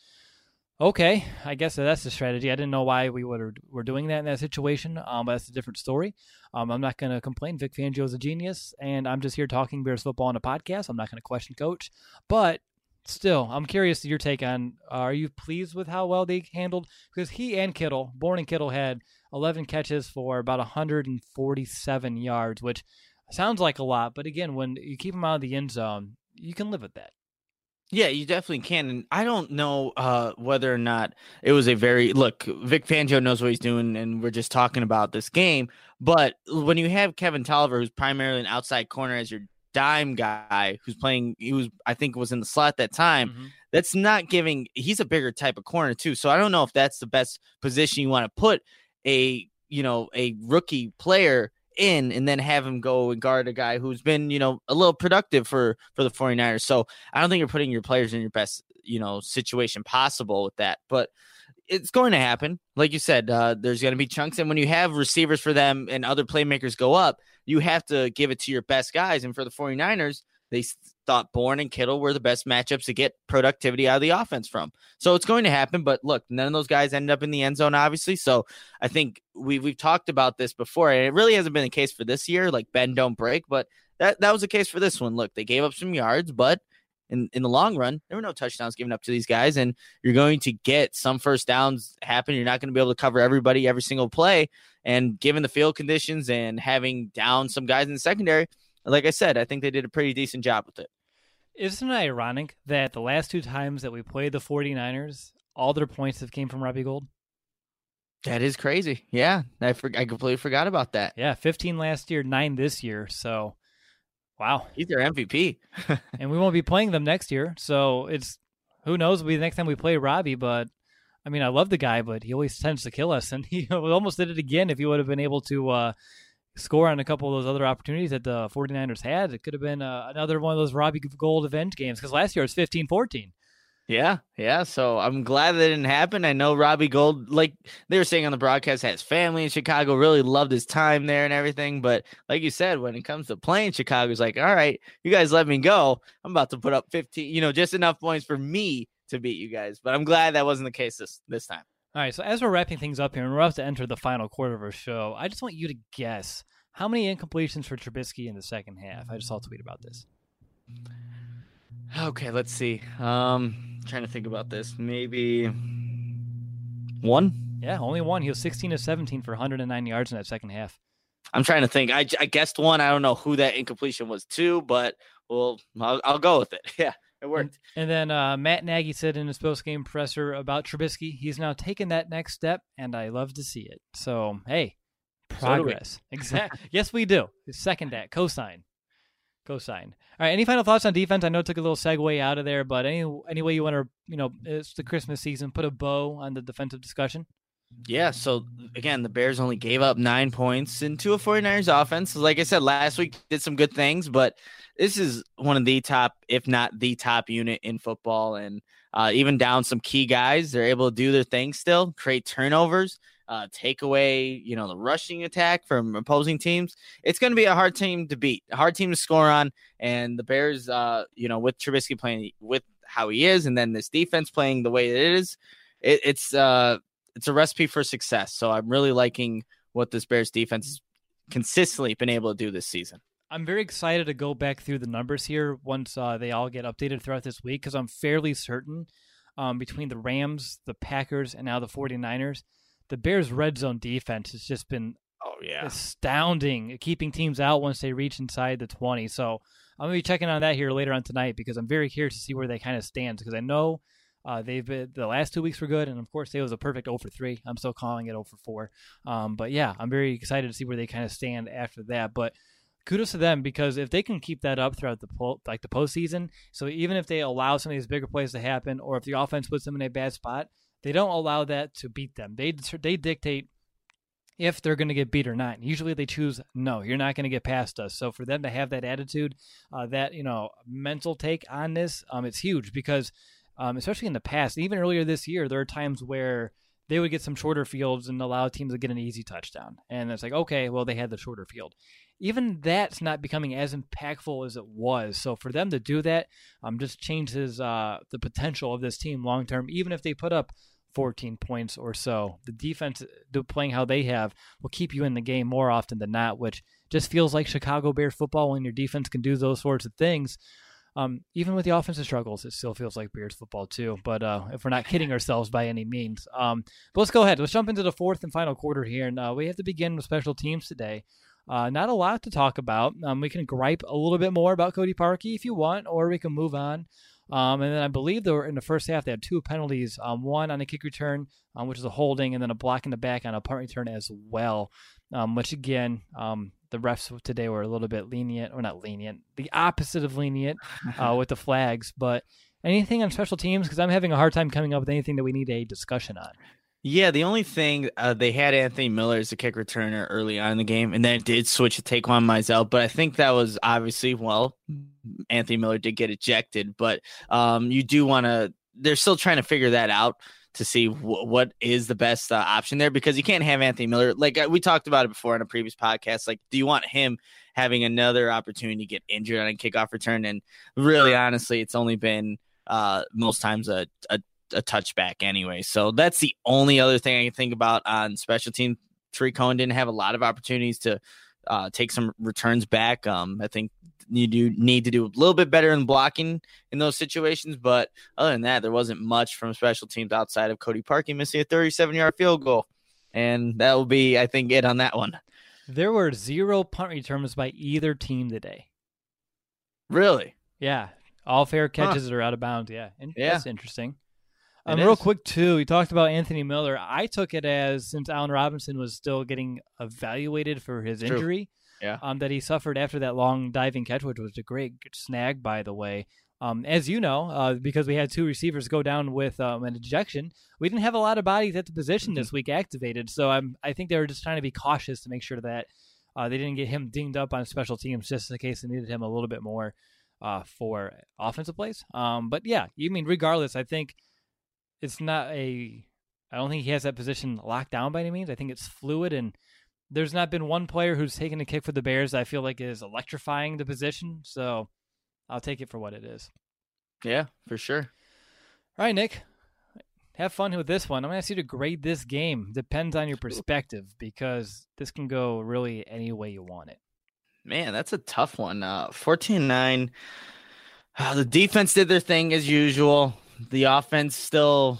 Okay, I guess that's the strategy. I didn't know why we would, were doing that in that situation, um, but that's a different story. Um, I'm not going to complain. Vic Fangio is a genius, and I'm just here talking Bears football on a podcast. I'm not going to question Coach. But still, I'm curious to your take on, uh, are you pleased with how well they handled? Because he and Kittle, Bourne and Kittle, had eleven catches for about one hundred forty-seven yards, which sounds like a lot. But again, when you keep them out of the end zone, you can live with that. Yeah, you definitely can. And I don't know uh, whether or not it was a very – look, Vic Fangio knows what he's doing, and we're just talking about this game. But when you have Kevin Tolliver, who's primarily an outside corner as your dime guy, who's playing – he was I think was in the slot at that time, mm-hmm. that's not giving – he's a bigger type of corner too. So I don't know if that's the best position you want to put a, you know, a rookie player – in and then have him go and guard a guy who's been, you know, a little productive for, for the 49ers. So I don't think you're putting your players in your best, you know, situation possible with that, but it's going to happen. Like you said, uh, there's going to be chunks. And when you have receivers for them and other playmakers go up, you have to give it to your best guys. And for the 49ers, they thought Bourne and Kittle were the best matchups to get productivity out of the offense from. So it's going to happen. But look, none of those guys ended up in the end zone, obviously. So I think we, we've talked about this before, and it really hasn't been the case for this year, like bend, don't break. But that, that was the case for this one. Look, they gave up some yards, but in, in the long run, there were no touchdowns given up to these guys. And you're going to get some first downs happen. You're not going to be able to cover everybody every single play. And given the field conditions and having down some guys in the secondary, like I said, I think they did a pretty decent job with it. Isn't it ironic that the last two times that we played the 49ers, all their points have came from Robbie Gould? That is crazy. Yeah, I, for, I completely forgot about that. Yeah, fifteen last year, nine this year. So, wow. He's their M V P. And we won't be playing them next year. So, it's who knows, it'll be the next time we play Robbie. But, I mean, I love the guy, but he always tends to kill us. And he almost did it again if he would have been able to uh, – score on a couple of those other opportunities that the 49ers had. It could have been uh, another one of those Robbie Gould avenge games because last year it was fifteen fourteen. Yeah, yeah. So I'm glad that didn't happen. I know Robbie Gould, like they were saying on the broadcast, has family in Chicago, really loved his time there and everything. But like you said, when it comes to playing Chicago, it's like, all right, you guys let me go. I'm about to put up fifteen, you know, just enough points for me to beat you guys. But I'm glad that wasn't the case this, this time. All right, so as we're wrapping things up here, and we're about to enter the final quarter of our show, I just want you to guess how many incompletions for Trubisky in the second half. I just saw a tweet about this. Okay, let's see. Um, trying to think about this. Maybe one? Yeah, only one. He was sixteen to seventeen for one hundred nine yards in that second half. I'm trying to think. I, I guessed one. I don't know who that incompletion was to, but well, I'll, I'll go with it. Yeah. It worked. And, and then uh, Matt Nagy said in his post-game presser about Trubisky, he's now taken that next step, and I love to see it. So, hey, progress. So exactly. Yes, we do. Second that. Cosign. Cosign. All right, any final thoughts on defense? I know it took a little segue out of there, but any, any way you want to, you know, it's the Christmas season, put a bow on the defensive discussion? Yeah, so, again, the Bears only gave up nine points into a 49ers offense. Like I said, last week did some good things, but this is one of the top, if not the top unit in football. And uh, even down some key guys, they're able to do their thing still, create turnovers, uh, take away, you know, the rushing attack from opposing teams. It's going to be a hard team to beat, a hard team to score on. And the Bears, uh, you know, with Trubisky playing with how he is, and then this defense playing the way it is, it, it's uh, it's a recipe for success. So I'm really liking what this Bears defense has consistently been able to do this season. I'm very excited to go back through the numbers here once uh, they all get updated throughout this week, because I'm fairly certain um, between the Rams, the Packers, and now the 49ers, the Bears' red zone defense has just been oh yeah astounding at keeping teams out once they reach inside the twenty. So I'm going to be checking on that here later on tonight, because I'm very curious to see where they kind of stand, because I know uh, they've been, the last two weeks were good, and of course it was a perfect oh for three. I'm still calling it oh for four. Um, but yeah, I'm very excited to see where they kind of stand after that. But kudos to them, because if they can keep that up throughout the po- like the postseason, so even if they allow some of these bigger plays to happen, or if the offense puts them in a bad spot, they don't allow that to beat them. They they dictate if they're going to get beat or not. Usually they choose, no, you're not going to get past us. So for them to have that attitude, uh, that, you know, mental take on this, um, it's huge, because um, especially in the past, even earlier this year, there are times where they would get some shorter fields and allow teams to get an easy touchdown. And it's like, okay, well, they had the shorter field. Even that's not becoming as impactful as it was. So for them to do that um, just changes uh, the potential of this team long term, even if they put up fourteen points or so. The defense, playing how they have, will keep you in the game more often than not, which just feels like Chicago Bears football when your defense can do those sorts of things. Um, even with the offensive struggles, it still feels like Bears football too. But uh, if we're not kidding ourselves by any means. Um, but let's go ahead. Let's jump into the fourth and final quarter here. And uh, we have to begin with special teams today. Uh, not a lot to talk about. Um, we can gripe a little bit more about Cody Parkey if you want, or we can move on. Um, and then I believe they were in the first half, they had two penalties, um, one on a kick return, um, which is a holding, and then a block in the back on a punt return as well, um, which again, um, the refs today were a little bit lenient, or not lenient, the opposite of lenient uh, with the flags. But anything on special teams? Because I'm having a hard time coming up with anything that we need a discussion on. Yeah, the only thing, uh, they had Anthony Miller as a kick returner early on in the game, and then it did switch to Taquan Mizell, but I think that was obviously, well, Anthony Miller did get ejected, but um, you do want to, they're still trying to figure that out to see w- what is the best uh, option there, because you can't have Anthony Miller, like we talked about it before in a previous podcast, like, do you want him having another opportunity to get injured on a kickoff return? And really, honestly, it's only been uh, most times a, a a touchback anyway. So that's the only other thing I can think about on special team. Tarik Cohen didn't have a lot of opportunities to uh, take some returns back. Um, I think you do need to do a little bit better in blocking in those situations. But other than that, there wasn't much from special teams outside of Cody Parkey missing a thirty-seven yard field goal. And that will be, I think, it on that one. There were zero punt returns by either team today. Really? Yeah. All fair catches huh. are out of bounds. Yeah. And yeah. That's interesting. Um, real quick, too, you talked about Anthony Miller. I took it as, since Allen Robinson was still getting evaluated for his True. injury, yeah, um, that he suffered after that long diving catch, which was a great snag, by the way. Um, as you know, uh, because we had two receivers go down with um, an ejection, we didn't have a lot of bodies at the position mm-hmm. this week activated. So I'm, I think they were just trying to be cautious to make sure that uh, they didn't get him dinged up on special teams, just in case they needed him a little bit more uh, for offensive plays. Um, but yeah, you mean regardless, I think it's not a, I don't think he has that position locked down by any means. I think it's fluid, and there's not been one player who's taken a kick for the Bears that I feel like is electrifying the position. So I'll take it for what it is. Yeah, for sure. All right, Nick, have fun with this one. I'm going to ask you to grade this game. Depends on your perspective, because this can go really any way you want it. Man, that's a tough one. Uh, fourteen nine. Uh, the defense did their thing as usual. The offense still,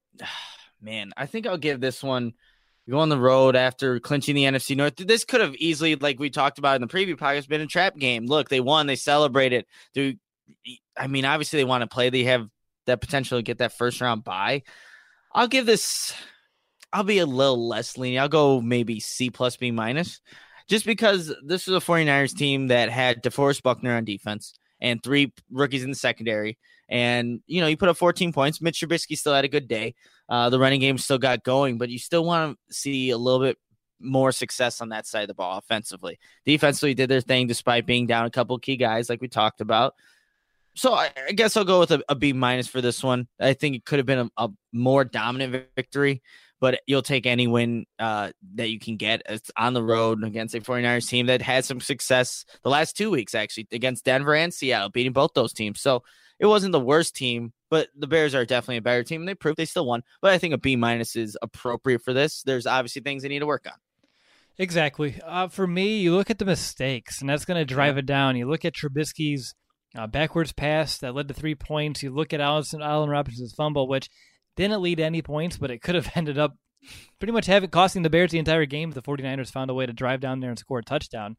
man, I think I'll give this one, go on the road after clinching the N F C North. This could have easily, like we talked about in the preview podcast, been a trap game. Look, they won, they celebrated. Do I mean, obviously they want to play. They have that potential to get that first round bye. I'll give this, I'll be a little less lenient. I'll go maybe C plus B minus, just because this was a 49ers team that had DeForest Buckner on defense and three rookies in the secondary. And, you know, you put up fourteen points. Mitch Trubisky still had a good day. Uh, the running game still got going, but you still want to see a little bit more success on that side of the ball offensively. Defensively did their thing despite being down a couple of key guys like we talked about. so I, I guess I'll go with a, a B minus for this one. I think it could have been a, a more dominant victory, but you'll take any win uh, that you can get. It's on the road against a 49ers team that had some success the last two weeks, actually, against Denver and Seattle, beating both those teams. So it wasn't the worst team, but the Bears are definitely a better team, and they proved they still won. But I think a B minus is appropriate for this. There's obviously things they need to work on. Exactly. Uh, for me, you look at the mistakes, and that's going to drive yeah. it down. You look at Trubisky's uh, backwards pass that led to three points. You look at Allison, Allen Robinson's fumble, which didn't lead to any points, but it could have ended up pretty much having costing the Bears the entire game if the 49ers found a way to drive down there and score a touchdown.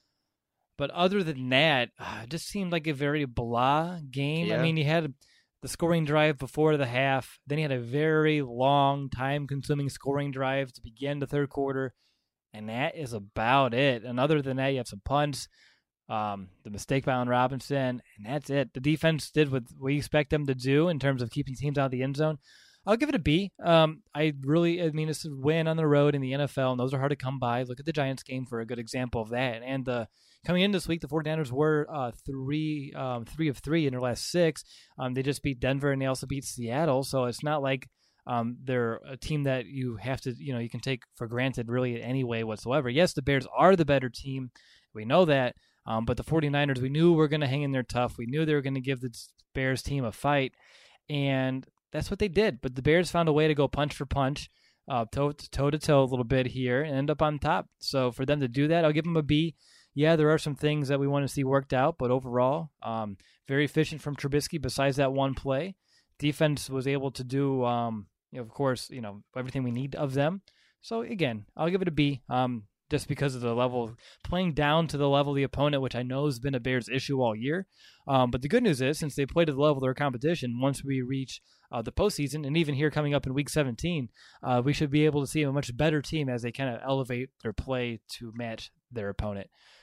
But other than that, uh, it just seemed like a very blah game. Yeah. I mean, you had the scoring drive before the half. Then you had a very long, time-consuming scoring drive to begin the third quarter. And that is about it. And other than that, you have some punts, um, the mistake by Allen Robinson, and that's it. The defense did what we expect them to do in terms of keeping teams out of the end zone. I'll give it a B. Um, I really, I mean, it's a win on the road in the N F L, and those are hard to come by. Look at the Giants game for a good example of that. And uh, coming in this week, the 49ers were uh, three, um, three of three in their last six. Um, they just beat Denver, and they also beat Seattle. So it's not like Um, they're a team that you have to, you know, you can take for granted really in any way whatsoever. Yes, the Bears are the better team. We know that. Um, but the 49ers, we knew were going to hang in there tough. We knew they were going to give the Bears team a fight. And that's what they did. But the Bears found a way to go punch for punch, uh, toe to toe to toe a little bit here and end up on top. So for them to do that, I'll give them a B. Yeah, there are some things that we want to see worked out. But overall, um, very efficient from Trubisky besides that one play. Defense was able to do, um, you know, of course, you know, everything we need of them. So again, I'll give it a B, um, just because of the level, playing down to the level of the opponent, which I know has been a Bears issue all year. Um, but the good news is, since they played at the level of their competition, once we reach uh, the postseason, and even here coming up in Week seventeen, uh, we should be able to see a much better team as they kind of elevate their play to match their opponent.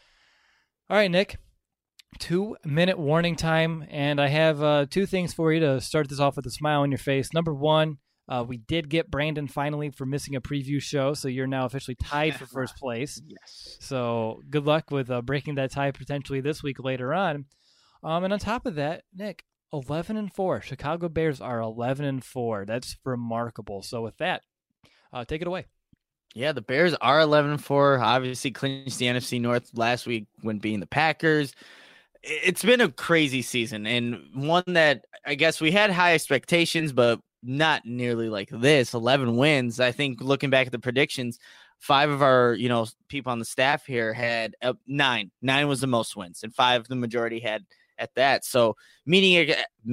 All right, Nick. Two-minute warning time, and I have uh, two things for you to start this off with a smile on your face. Number one, uh, we did get Brandon finally for missing a preview show, so you're now officially tied for first place. Yes. So good luck with uh, breaking that tie potentially this week later on. Um, and on top of that, Nick, eleven and four. Chicago Bears are eleven and four. That's remarkable. So with that, uh, take it away. Yeah, the Bears are eleven and four. Obviously clinched the N F C North last week when beating the Packers. It's been a crazy season, and one that I guess we had high expectations, but not nearly like this. eleven wins. I think looking back at the predictions, five of our, you know, people on the staff here had uh, nine. Nine was the most wins, and five the majority had at that. So meeting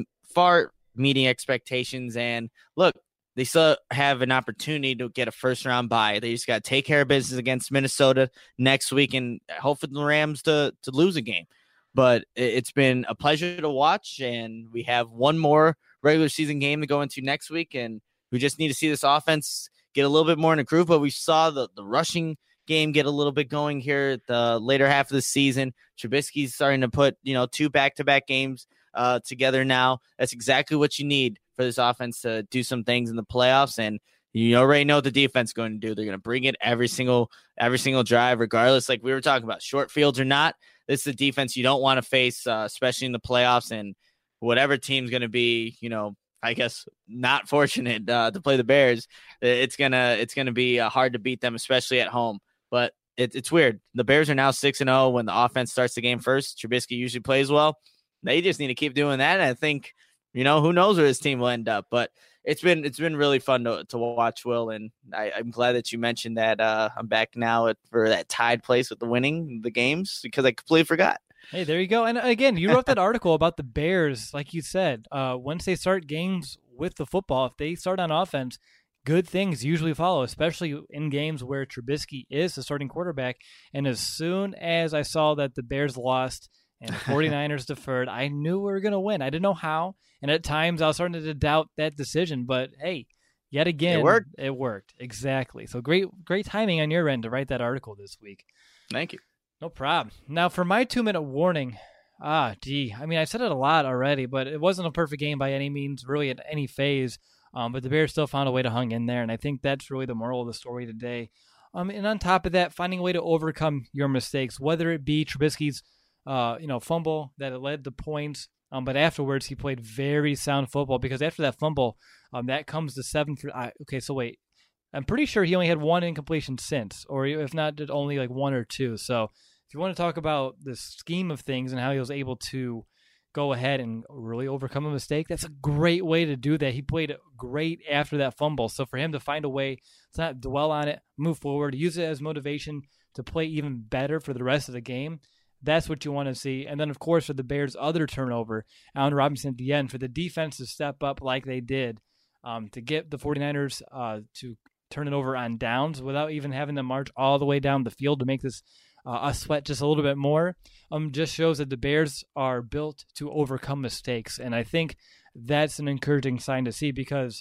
far meeting expectations, and look, they still have an opportunity to get a first round bye. They just got to take care of business against Minnesota next week, and hope for the Rams to to lose a game. But it's been a pleasure to watch, and we have one more regular season game to go into next week, and we just need to see this offense get a little bit more in a groove. But we saw the, the rushing game get a little bit going here at the later half of the season. Trubisky's starting to put, you know, two back-to-back games uh, together now. That's exactly what you need for this offense to do some things in the playoffs, and you already know what the defense is going to do. They're going to bring it every single every single drive, regardless, like we were talking about, short fields or not. This is a defense you don't want to face, uh, especially in the playoffs. And whatever team's going to be, you know, I guess not fortunate uh, to play the Bears, it's gonna it's gonna be uh, hard to beat them, especially at home. But it, it's weird. The Bears are now six and zero when the offense starts the game first. Trubisky usually plays well. They just need to keep doing that. And I think, you know, who knows where this team will end up. But it's been it's been really fun to to watch, Will, and I, I'm glad that you mentioned that uh, I'm back now at, for that tied place with the winning the games, because I completely forgot. Hey, there you go. And again, you wrote that article about the Bears, like you said. Uh, once they start games with the football, if they start on offense, good things usually follow, especially in games where Trubisky is the starting quarterback. And as soon as I saw that the Bears lost and the 49ers deferred, I knew we were going to win. I didn't know how. And at times I was starting to doubt that decision. But, hey, yet again, it worked. It worked. Exactly. So great great timing on your end to write that article this week. Thank you. No problem. Now, for my two-minute warning, ah, gee, I mean, I said it a lot already, but it wasn't a perfect game by any means, really at any phase. Um, but the Bears still found a way to hang in there, and I think that's really the moral of the story today. Um, and on top of that, finding a way to overcome your mistakes, whether it be Trubisky's, uh, you know, fumble that led to points, Um, but afterwards, he played very sound football because after that fumble, um, that comes to seven for. Uh, okay, so wait, I'm pretty sure he only had one incompletion since, or if not, did only like one or two. So if you want to talk about the scheme of things and how he was able to go ahead and really overcome a mistake, that's a great way to do that. He played great after that fumble. So for him to find a way to not dwell on it, move forward, use it as motivation to play even better for the rest of the game, that's what you want to see. And then, of course, for the Bears' other turnover, Allen Robinson at the end, for the defense to step up like they did, um, to get the 49ers uh, to turn it over on downs without even having to march all the way down the field to make this uh, us sweat just a little bit more, um, just shows that the Bears are built to overcome mistakes. And I think that's an encouraging sign to see because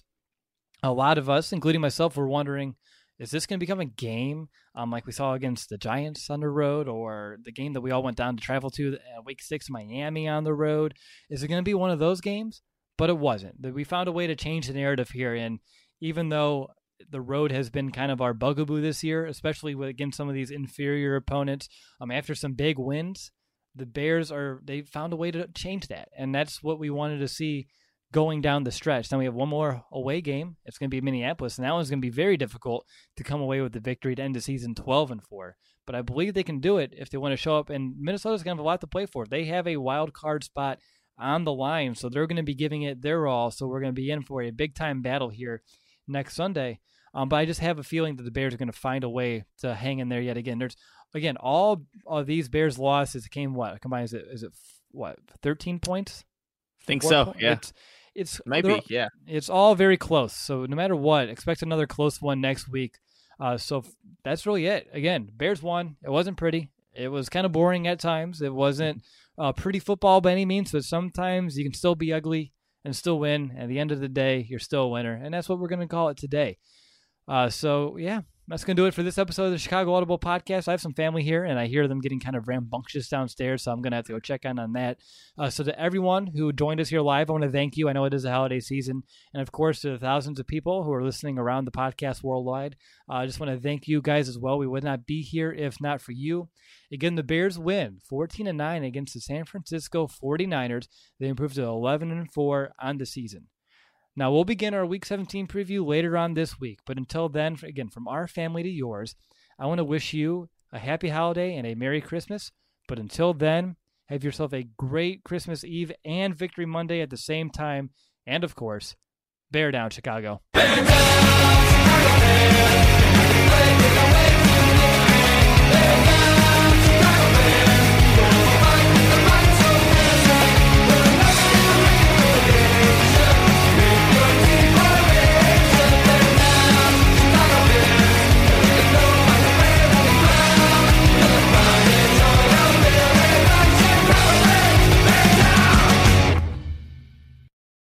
a lot of us, including myself, were wondering, is this going to become a game um, like we saw against the Giants on the road, or the game that we all went down to travel to, uh, Week six Miami on the road? Is it going to be one of those games? But it wasn't. We found a way to change the narrative here, and even though the road has been kind of our bugaboo this year, especially with, against some of these inferior opponents, um, after some big wins, the Bears are they found a way to change that, and that's what we wanted to see going down the stretch. Then we have one more away game. It's going to be Minneapolis, and that one's going to be very difficult to come away with the victory to end the season twelve and four. But I believe they can do it if they want to show up, and Minnesota's going to have a lot to play for. They have a wild card spot on the line, so they're going to be giving it their all, so we're going to be in for a big-time battle here next Sunday. Um, but I just have a feeling that the Bears are going to find a way to hang in there yet again. There's, again, all of these Bears losses came, what, combined, is it, is it what, thirteen points? I think Four so, points? yeah. It's, It's maybe, yeah. It's all very close. So no matter what, expect another close one next week. Uh, so f- that's really it. Again, Bears won. It wasn't pretty. It was kind of boring at times. It wasn't uh, pretty football by any means, but sometimes you can still be ugly and still win. At the end of the day, you're still a winner, and that's what we're going to call it today. Uh, so, yeah, that's going to do it for this episode of the Chicago Audible Podcast. I have some family here, and I hear them getting kind of rambunctious downstairs, so I'm going to have to go check in on that. Uh, so to everyone who joined us here live, I want to thank you. I know it is a holiday season. And, of course, to the thousands of people who are listening around the podcast worldwide, uh, I just want to thank you guys as well. We would not be here if not for you. Again, the Bears win fourteen to nine against the San Francisco forty-niners. They improved to eleven and four on the season. Now, we'll begin our Week seventeen preview later on this week, but until then, again, from our family to yours, I want to wish you a happy holiday and a Merry Christmas. But until then, have yourself a great Christmas Eve and Victory Monday at the same time. And, of course, bear down, Chicago. Bear down, Chicago, bear.